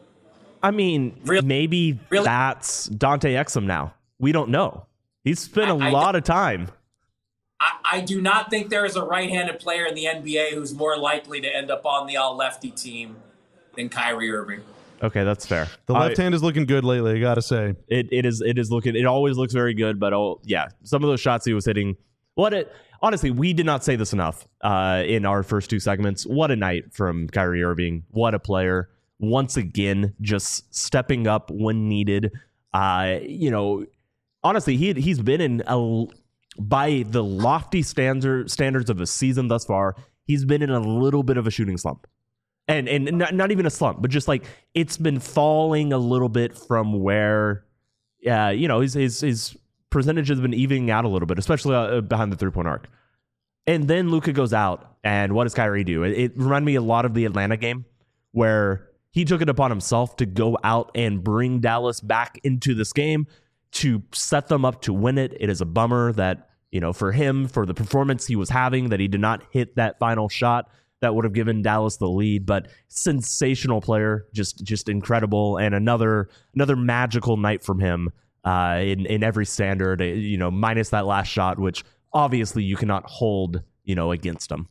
I mean, really? maybe really? that's Dante Exum now. We don't know. He's spent a I, lot I, of time. I, I do not think there is a right-handed player in the N B A who's more likely to end up on the all-lefty team than Kyrie Irving. Okay, that's fair. The left I, hand is looking good lately, I gotta say. It it is it is looking it always looks very good, but oh yeah, some of those shots he was hitting. What it honestly, we did not say this enough uh, in our first two segments. What a night from Kyrie Irving. What a player. Once again, just stepping up when needed. Uh, you know, honestly, he he's been in a by the lofty standard standards of a season thus far, he's been in a little bit of a shooting slump. And and not, not even a slump, but just like it's been falling a little bit from where, uh, you know, his his his percentage has been evening out a little bit, especially uh, behind the three point arc. And then Luka goes out, and what does Kyrie do? It, it reminded me a lot of the Atlanta game, where he took it upon himself to go out and bring Dallas back into this game to set them up to win it. It is a bummer that, you know, for him, for the performance he was having, that he did not hit that final shot that would have given Dallas the lead, but sensational player, just just incredible, and another another magical night from him uh, in in every standard. You know, minus that last shot, which obviously you cannot hold, you know, against him.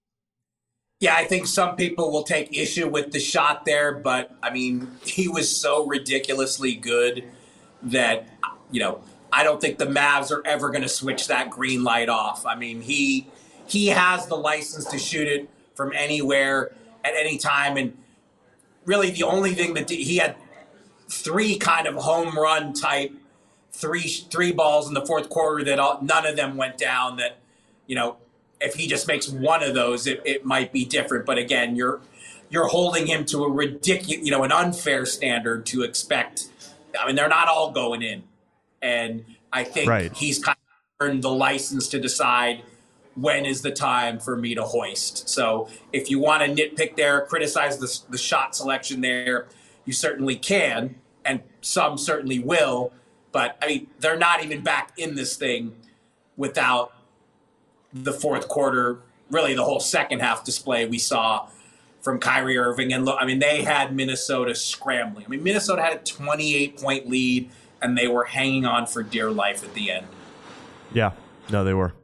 Yeah, I think some people will take issue with the shot there, but I mean, he was so ridiculously good that, you know, I don't think the Mavs are ever going to switch that green light off. I mean, he he has the license to shoot it from anywhere at any time. And really the only thing that he had three kind of home run type, three, three balls in the fourth quarter that all, none of them went down that, you know, if he just makes one of those, it, it might be different. But again, you're, you're holding him to a ridiculous, you know, an unfair standard to expect. I mean, they're not all going in. And I think right. he's kind of earned the license to decide when is the time for me to hoist. So if you want to nitpick there, criticize the, the shot selection there, you certainly can, and some certainly will. But, I mean, they're not even back in this thing without the fourth quarter, really the whole second half display we saw from Kyrie Irving. And, look, I mean, they had Minnesota scrambling. I mean, Minnesota had a twenty-eight point lead, and they were hanging on for dear life at the end. Yeah, no, they were.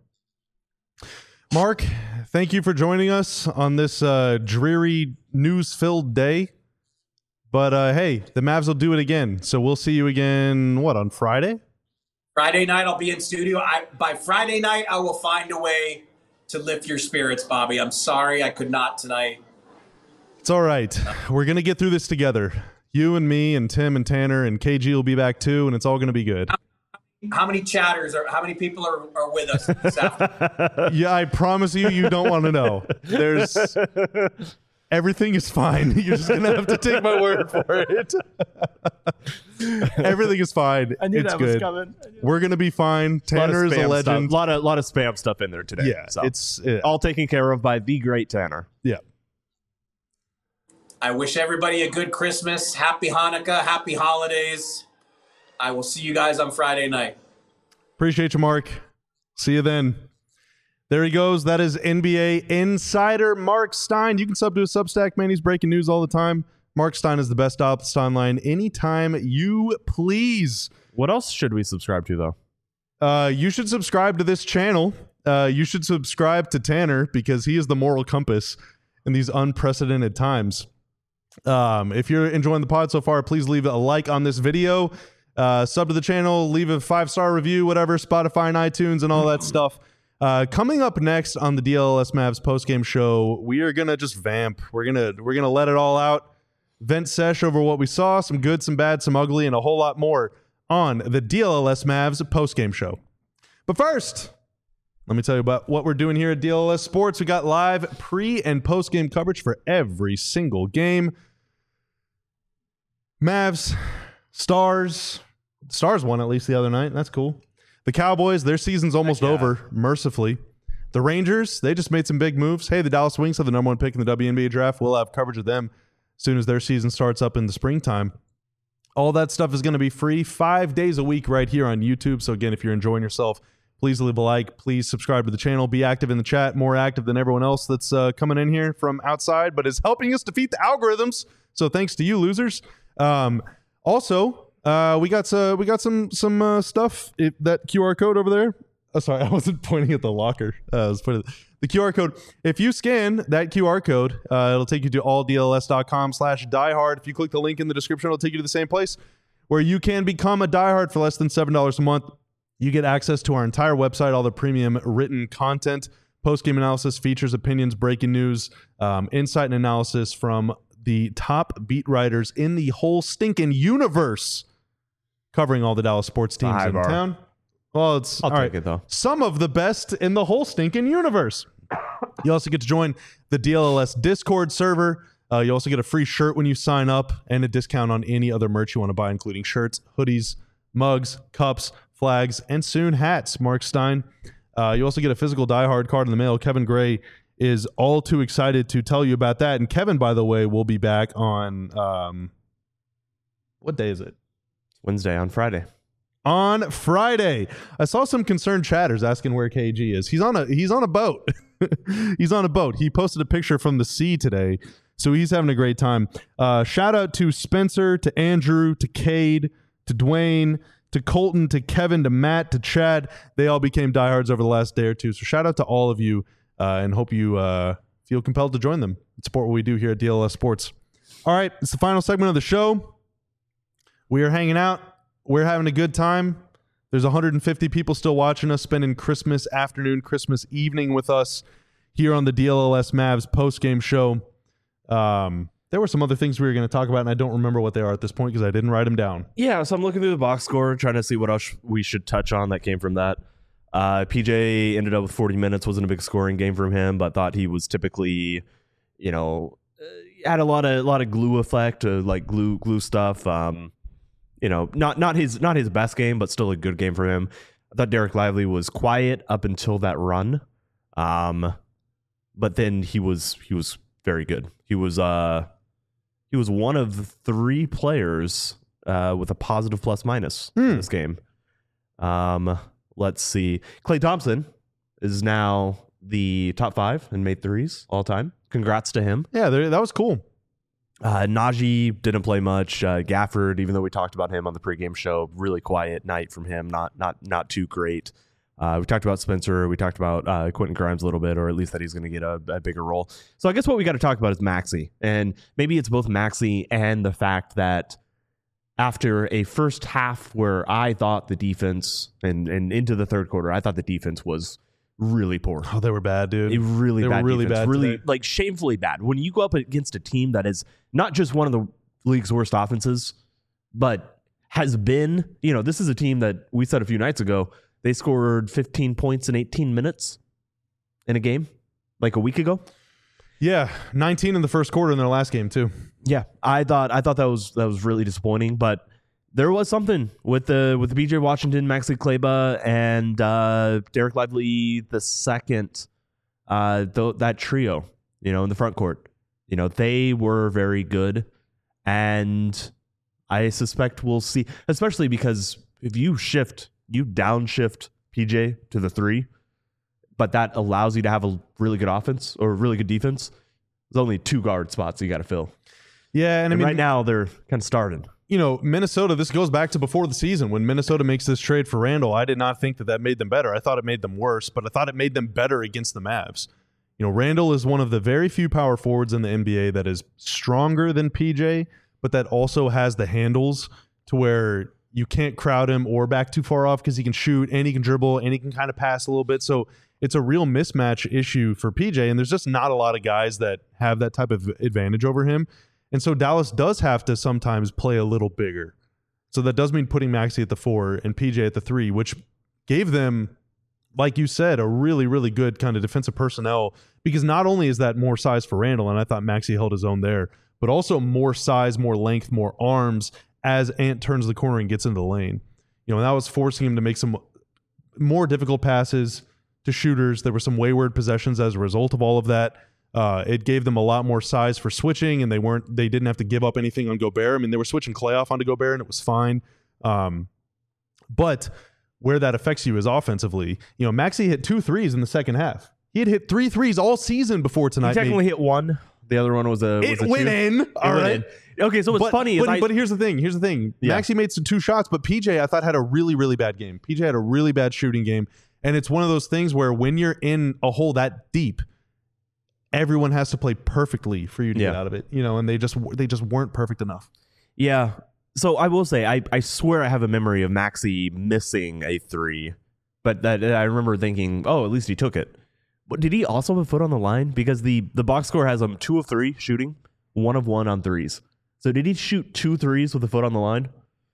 Mark, thank you for joining us on this uh, dreary, news-filled day. But uh, hey, the Mavs will do it again. So we'll see you again, what, on Friday? Friday night, I'll be in studio. I, by Friday night, I will find a way to lift your spirits, Bobby. I'm sorry I could not tonight. It's all right. We're going to get through this together. You and me and Tim and Tanner and K G will be back too, and it's all going to be good. How many chatters are, how many people are, are with us this afternoon? Yeah, I promise you, you don't want to know. There's everything is fine. You're just going to have to take my word for it. Everything is fine. I knew it's that good. was coming. We're going to be fine. Tanner is a legend. A lot of, lot of spam stuff in there today. Yeah, so. it's yeah. all taken care of by the great Tanner. Yeah. I wish everybody a good Christmas, happy Hanukkah, happy holidays. I will see you guys on Friday night. Appreciate you, Mark. See you then. There he goes. That is N B A insider Mark Stein. You can sub to a Substack, man. He's breaking news all the time. Mark Stein is the best optimist online anytime you please. What else should we subscribe to, though? Uh, you should subscribe to this channel. Uh, you should subscribe to Tanner because he is the moral compass in these unprecedented times. Um, if you're enjoying the pod so far, please leave a like on this video. Uh, sub to the channel, leave a five-star review, whatever, Spotify and iTunes and all that stuff. Uh, coming up next on the D L L S Mavs postgame show, we are gonna just vamp. We're gonna we're gonna let it all out, vent sesh over what we saw, some good, some bad, some ugly, and a whole lot more on the D L L S Mavs postgame show. But first, let me tell you about what we're doing here at D L L S Sports. We got live pre and postgame coverage for every single game. Mavs, Stars, Stars won at least the other night. That's cool. The Cowboys, their season's almost yeah. over, mercifully. The Rangers, they just made some big moves. Hey, the Dallas Wings have the number one pick in the W N B A draft. We'll have coverage of them as soon as their season starts up in the springtime. All that stuff is going to be free five days a week right here on YouTube. So again, if you're enjoying yourself, please leave a like. Please subscribe to the channel. Be active in the chat, more active than everyone else that's uh, coming in here from outside, but is helping us defeat the algorithms. So thanks to you, losers. Um, also, uh, we got uh, we got some some uh, stuff. It, that Q R code over there. Oh, sorry, I wasn't pointing at the locker. Uh, I was pointing at the Q R code. If you scan that Q R code, uh, it'll take you to all D L S dot com slash diehard. If you click the link in the description, it'll take you to the same place where you can become a diehard for less than seven dollars a month. You get access to our entire website, all the premium written content, post-game analysis, features, opinions, breaking news, um, insight and analysis from the top beat writers in the whole stinking universe, covering all the Dallas sports teams High in bar. town. Well, it's I'll all take right. it, though. Some of the best in the whole stinking universe. You also get to join the D L L S Discord server. Uh, you also get a free shirt when you sign up and a discount on any other merch you want to buy, including shirts, hoodies, mugs, cups, flags, and soon hats. Mark Stein. Uh, you also get a physical Die Hard card in the mail. Kevin Gray is all too excited to tell you about that. And Kevin, by the way, will be back on um, what day is it? Wednesday on Friday. On Friday. I saw some concerned chatters asking where K G is. He's on a he's on a boat. He's on a boat. He posted a picture from the sea today, so he's having a great time. Uh, shout out to Spencer, to Andrew, to Cade, to Dwayne, to Colton, to Kevin, to Matt, to Chad. They all became diehards over the last day or two. So shout out to all of you, uh, and hope you uh, feel compelled to join them and support what we do here at D L S Sports. All right, it's the final segment of the show. We are hanging out. We're having a good time. There's one hundred fifty people still watching us, spending Christmas afternoon, Christmas evening with us here on the D L L S Mavs post-game show. Um, there were some other things we were going to talk about, and I don't remember what they are at this point because I didn't write them down. Yeah, so I'm looking through the box score, trying to see what else we should touch on that came from that. Uh, P J ended up with forty minutes. Wasn't a big scoring game from him, but thought he was typically, you know, uh, had a lot of a lot of glue effect, uh, like glue glue stuff. Um, you know, not not his not his best game, but still a good game for him. I thought Derek Lively was quiet up until that run, um, but then he was he was very good. He was uh he was one of three players uh, with a positive plus minus Hmm. in this game. Um, let's see. Klay Thompson is now the top five in made threes all time. Congrats to him. Yeah, there, that was cool. Uh, Najee didn't play much. Uh, Gafford, even though we talked about him on the pregame show, really quiet night from him. Not not not too great. Uh, we talked about Spencer. We talked about uh, Quentin Grimes a little bit, or at least that he's going to get a, a bigger role. So I guess what we got to talk about is Maxey. And maybe it's both Maxey and the fact that after a first half where I thought the defense, and, and into the third quarter, I thought the defense was really poor. Oh, they were bad, dude. A really they bad were really defense. bad Really, today. like, shamefully bad. When you go up against a team that is not just one of the league's worst offenses, but has been, you know, this is a team that we said a few nights ago, they scored fifteen points in eighteen minutes in a game, like a week ago. Yeah, nineteen in the first quarter in their last game too. Yeah, I thought I thought that was that was really disappointing, but there was something with the with the P J Washington, Maxi Kleber, and uh, Derek Lively the second. Uh, th- that trio, you know, in the front court, you know, they were very good, and I suspect we'll see, especially because if you shift, you downshift P J to the three, but that allows you to have a really good offense or a really good defense. There's only two guard spots you got to fill. Yeah, and, And I mean, right now they're kind of starting. you know, Minnesota, this goes back to before the season when Minnesota makes this trade for Randall. I did not think that that made them better. I thought it made them worse, but I thought it made them better against the Mavs. You know, Randall is one of the very few power forwards in the N B A that is stronger than P J, but that also has the handles to where you can't crowd him or back too far off because he can shoot and he can dribble and he can kind of pass a little bit. So it's a real mismatch issue for P J, and there's just not a lot of guys that have that type of advantage over him. And so Dallas does have to sometimes play a little bigger. So that does mean putting Maxey at the four and P J at the three, which gave them, like you said, a really, really good kind of defensive personnel, because not only is that more size for Randall, and I thought Maxey held his own there, but also more size, more length, more arms as Ant turns the corner and gets into the lane. You know, and that was forcing him to make some more difficult passes to shooters. There were some wayward possessions as a result of all of that. Uh, it gave them a lot more size for switching, and they weren't they didn't have to give up anything on Gobert. I mean, they were switching Clay off onto Gobert, and it was fine. Um, but where that affects you is offensively. You know, Maxey hit two threes in the second half. He had hit three threes all season before tonight. He technically hit one. The other one was a was It a went two. in. It All went right. in. Okay, so what's but, funny but, is I, but here's the thing. Here's the thing. Yeah. Maxey made some two shots, but P J I thought had a really, really bad game. P J had a really bad shooting game. And it's one of those things where when you're in a hole that deep, everyone has to play perfectly for you to Yeah. get out of it. You know, and they just they just weren't perfect enough. yeah. So I will say, I, I swear I have a memory of Maxey missing a three, but that I remember thinking, oh, at least he took it. But did he also have a foot on the line? Because the the box score has him two of three shooting, one of one on threes. So did he shoot two threes with a foot on the line?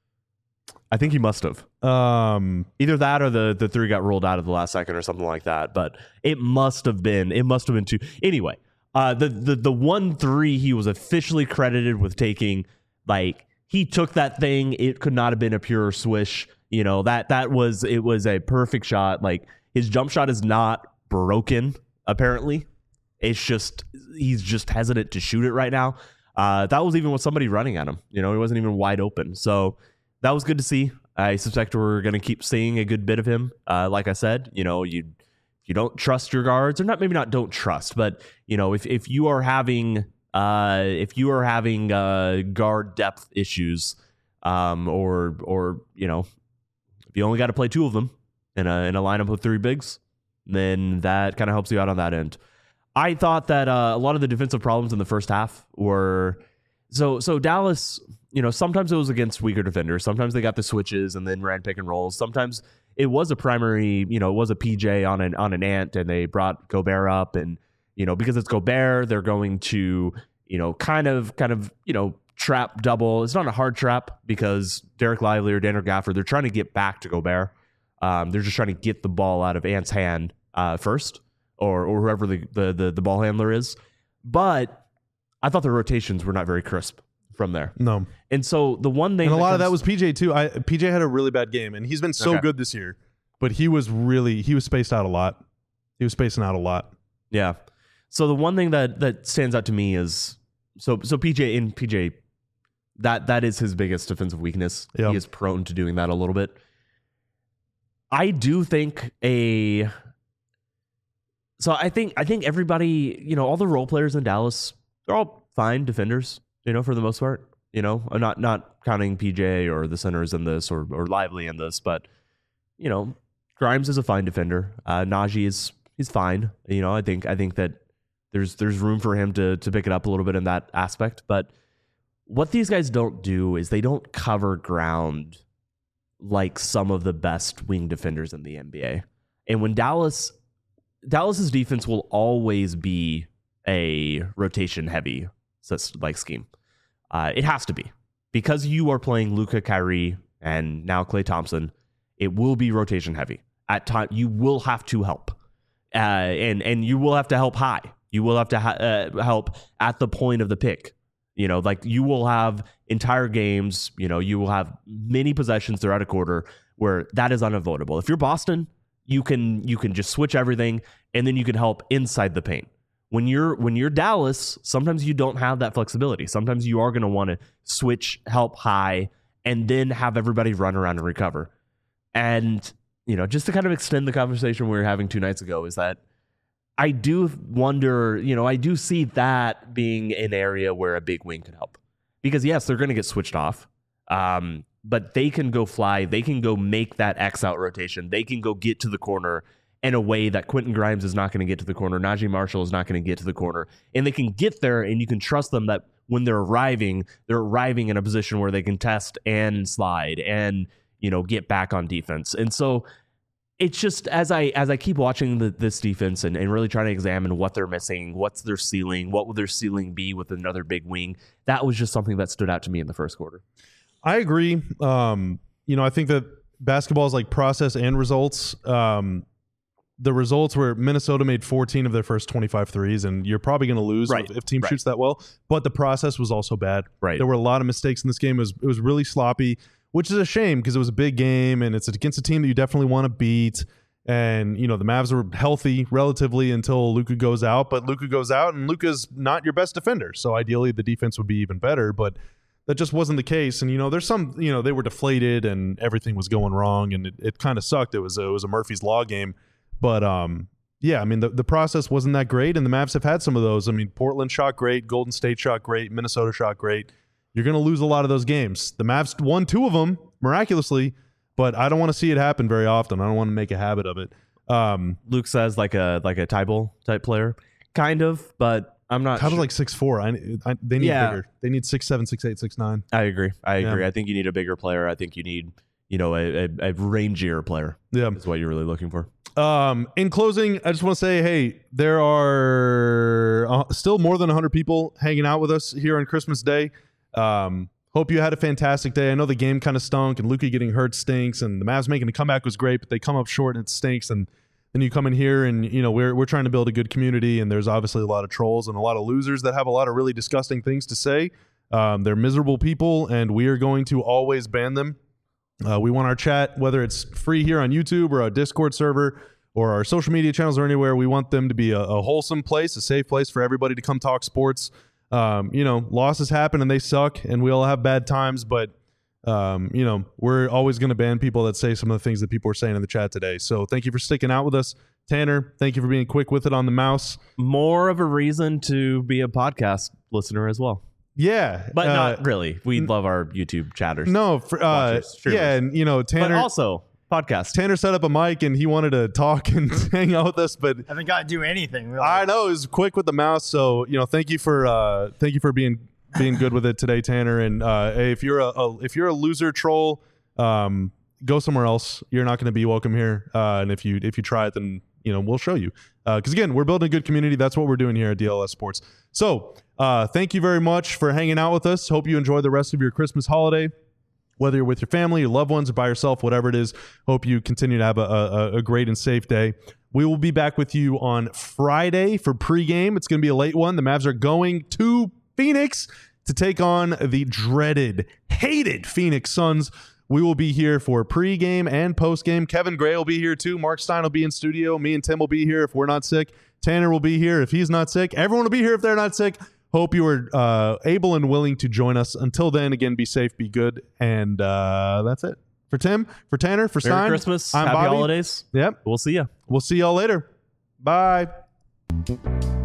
I think he must have. Um, Either that or the, the three got rolled out of the last second or something like that. But it must have been. It must have been two. Anyway, uh, the, the, the one three he was officially credited with taking, like, he took that thing. It could not have been a pure swish. You know, that that was, it was a perfect shot. Like, his jump shot is not broken, apparently. It's just, he's just hesitant to shoot it right now. Uh, that was even with somebody running at him. You know, he wasn't even wide open. So that was good to see. I suspect we're going to keep seeing a good bit of him. Uh, like I said, you know, you you don't trust your guards, or not, maybe not don't trust, but, you know, if, if you are having uh, if you are having uh, guard depth issues, um, or or you know, if you only got to play two of them in a in a lineup of three bigs, then that kind of helps you out on that end. I thought that uh, a lot of the defensive problems in the first half were so so Dallas. You know, sometimes it was against weaker defenders. Sometimes they got the switches and then ran pick and rolls. Sometimes it was a primary, you know, it was a P J on an on an Ant, and they brought Gobert up, and you know, because it's Gobert, they're going to, you know, kind of kind of you know trap double. It's not a hard trap because Derek Lively or Daniel Gafford, they're trying to get back to Gobert. Um, they're just trying to get the ball out of Ant's hand uh, first, or or whoever the, the the the ball handler is. But I thought the rotations were not very crisp from there. no. And so the one thing, And a lot of comes- that was P J too. I P J had a really bad game, and he's been so Okay. good this year, but he was really he was spaced out a lot. He was spacing out a lot. yeah. So the one thing that that stands out to me is so so P J in P J, that that is his biggest defensive weakness. Yeah. He is prone to doing that a little bit. I do think a. So I think I think everybody, you know, all the role players in Dallas, they're all fine defenders, you know, for the most part. You know, I'm not not counting P J or the centers in this, or or Lively in this, but you know, Grimes is a fine defender. Uh, Najee is he's fine. You know, I think I think that there's there's room for him to to pick it up a little bit in that aspect. But what these guys don't do is they don't cover ground like some of the best wing defenders in the N B A. And when Dallas Dallas's defense will always be a rotation heavy like scheme. Uh, it has to be because you are playing Luka, Kyrie, and now Klay Thompson. It will be rotation heavy at time. You will have to help, uh, and and you will have to help high. You will have to ha- uh, help at the point of the pick. You know, like you will have entire games. You know, you will have many possessions throughout a quarter where that is unavoidable. If you're Boston, you can you can just switch everything, and then you can help inside the paint. When you're when you're Dallas, sometimes you don't have that flexibility. Sometimes you are going to want to switch, help high, and then have everybody run around and recover. And, you know, just to kind of extend the conversation we were having two nights ago is that I do wonder, you know, I do see that being an area where a big wing could help. Because, yes, they're going to get switched off, um, but they can go fly. They can go make that X out rotation. They can go get to the corner in a way that Quentin Grimes is not going to get to the corner. Najee Marshall is not going to get to the corner. And they can get there, and you can trust them that when they're arriving, they're arriving in a position where they can test and slide and, you know, get back on defense. And so it's just as I as I keep watching the, this defense and, and really trying to examine what they're missing, what's their ceiling, what would their ceiling be with another big wing, that was just something that stood out to me in the first quarter. I agree. Um, you know, I think that basketball is like process and results. Um, the results were Minnesota made fourteen of their first twenty-five threes, and you're probably going to lose right. if, if team right. shoots that well. But the process was also bad. Right. There were a lot of mistakes in this game. It was, it was really sloppy, which is a shame because it was a big game, and it's against a team that you definitely want to beat. And, you know, the Mavs were healthy relatively until Luka goes out, but Luka goes out, and Luka's not your best defender. So ideally the defense would be even better, but that just wasn't the case. And, you know, there's some, you know, they were deflated and everything was going wrong, and it, it kind of sucked. It was a, it was a Murphy's Law game. But, um, yeah, I mean, the, the process wasn't that great, and the Mavs have had some of those. I mean, Portland shot great, Golden State shot great, Minnesota shot great. You're going to lose a lot of those games. The Mavs won two of them miraculously, but I don't want to see it happen very often. I don't want to make a habit of it. Um, Luke says like a like a Tybal type player, kind of, but I'm not. Tybal's sure. like six four. I, I they need Yeah. bigger. They need six seven, six eight, six nine. I agree. I agree. Yeah. I think you need a bigger player. I think you need, you know, a, a, a rangier player. Yeah, is what you're really looking for. Um, in closing, I just want to say, hey, there are uh, still more than one hundred people hanging out with us here on Christmas Day. Um, hope you had a fantastic day. I know the game kind of stunk, and Luka getting hurt stinks, and the Mavs making a comeback was great, but they come up short and it stinks. And then you come in here, and you know we're we're trying to build a good community, and there's obviously a lot of trolls and a lot of losers that have a lot of really disgusting things to say. Um, they're miserable people, and we are going to always ban them. Uh, we want our chat, whether it's free here on YouTube or our Discord server or our social media channels or anywhere, we want them to be a, a wholesome place, a safe place for everybody to come talk sports. Um, you know, losses happen and they suck, and we all have bad times, but, um, you know, we're always going to ban people that say some of the things that people are saying in the chat today. So thank you for sticking out with us. Tanner, thank you for being quick with it on the mouse. More of a reason to be a podcast listener as well. Yeah. But uh, not really. We love our YouTube chatters. No, for, uh, Watchers, streamers. yeah, and, you know, Tanner... But also, podcast. Tanner set up a mic and he wanted to talk and hang out with us, but I haven't got to do anything. Really. I know he was quick with the mouse. So you know, thank you for uh, thank you for being being good with it today, Tanner. And uh, hey, if you're a, a if you're a loser troll, um, go somewhere else. You're not going to be welcome here. Uh, and if you if you try it, then you know we'll show you. Because uh, again, we're building a good community. That's what we're doing here at D L S Sports. So uh, thank you very much for hanging out with us. Hope you enjoy the rest of your Christmas holiday. Whether you're with your family, your loved ones, or by yourself, whatever it is, hope you continue to have a, a, a great and safe day. We will be back with you on Friday for pregame. It's going to be a late one. The Mavs are going to Phoenix to take on the dreaded, hated Phoenix Suns. We will be here for pregame and postgame. Kevin Gray will be here too. Mark Stein will be in studio. Me and Tim will be here if we're not sick. Tanner will be here if he's not sick. Everyone will be here if they're not sick. Hope you are uh, able and willing to join us. Until then, again, be safe, be good, and uh, that's it. For Tim, for Tanner, for Merry Stein, Christmas. I'm Happy Bobby. holidays. Yep. We'll see ya. We'll see y'all later. Bye.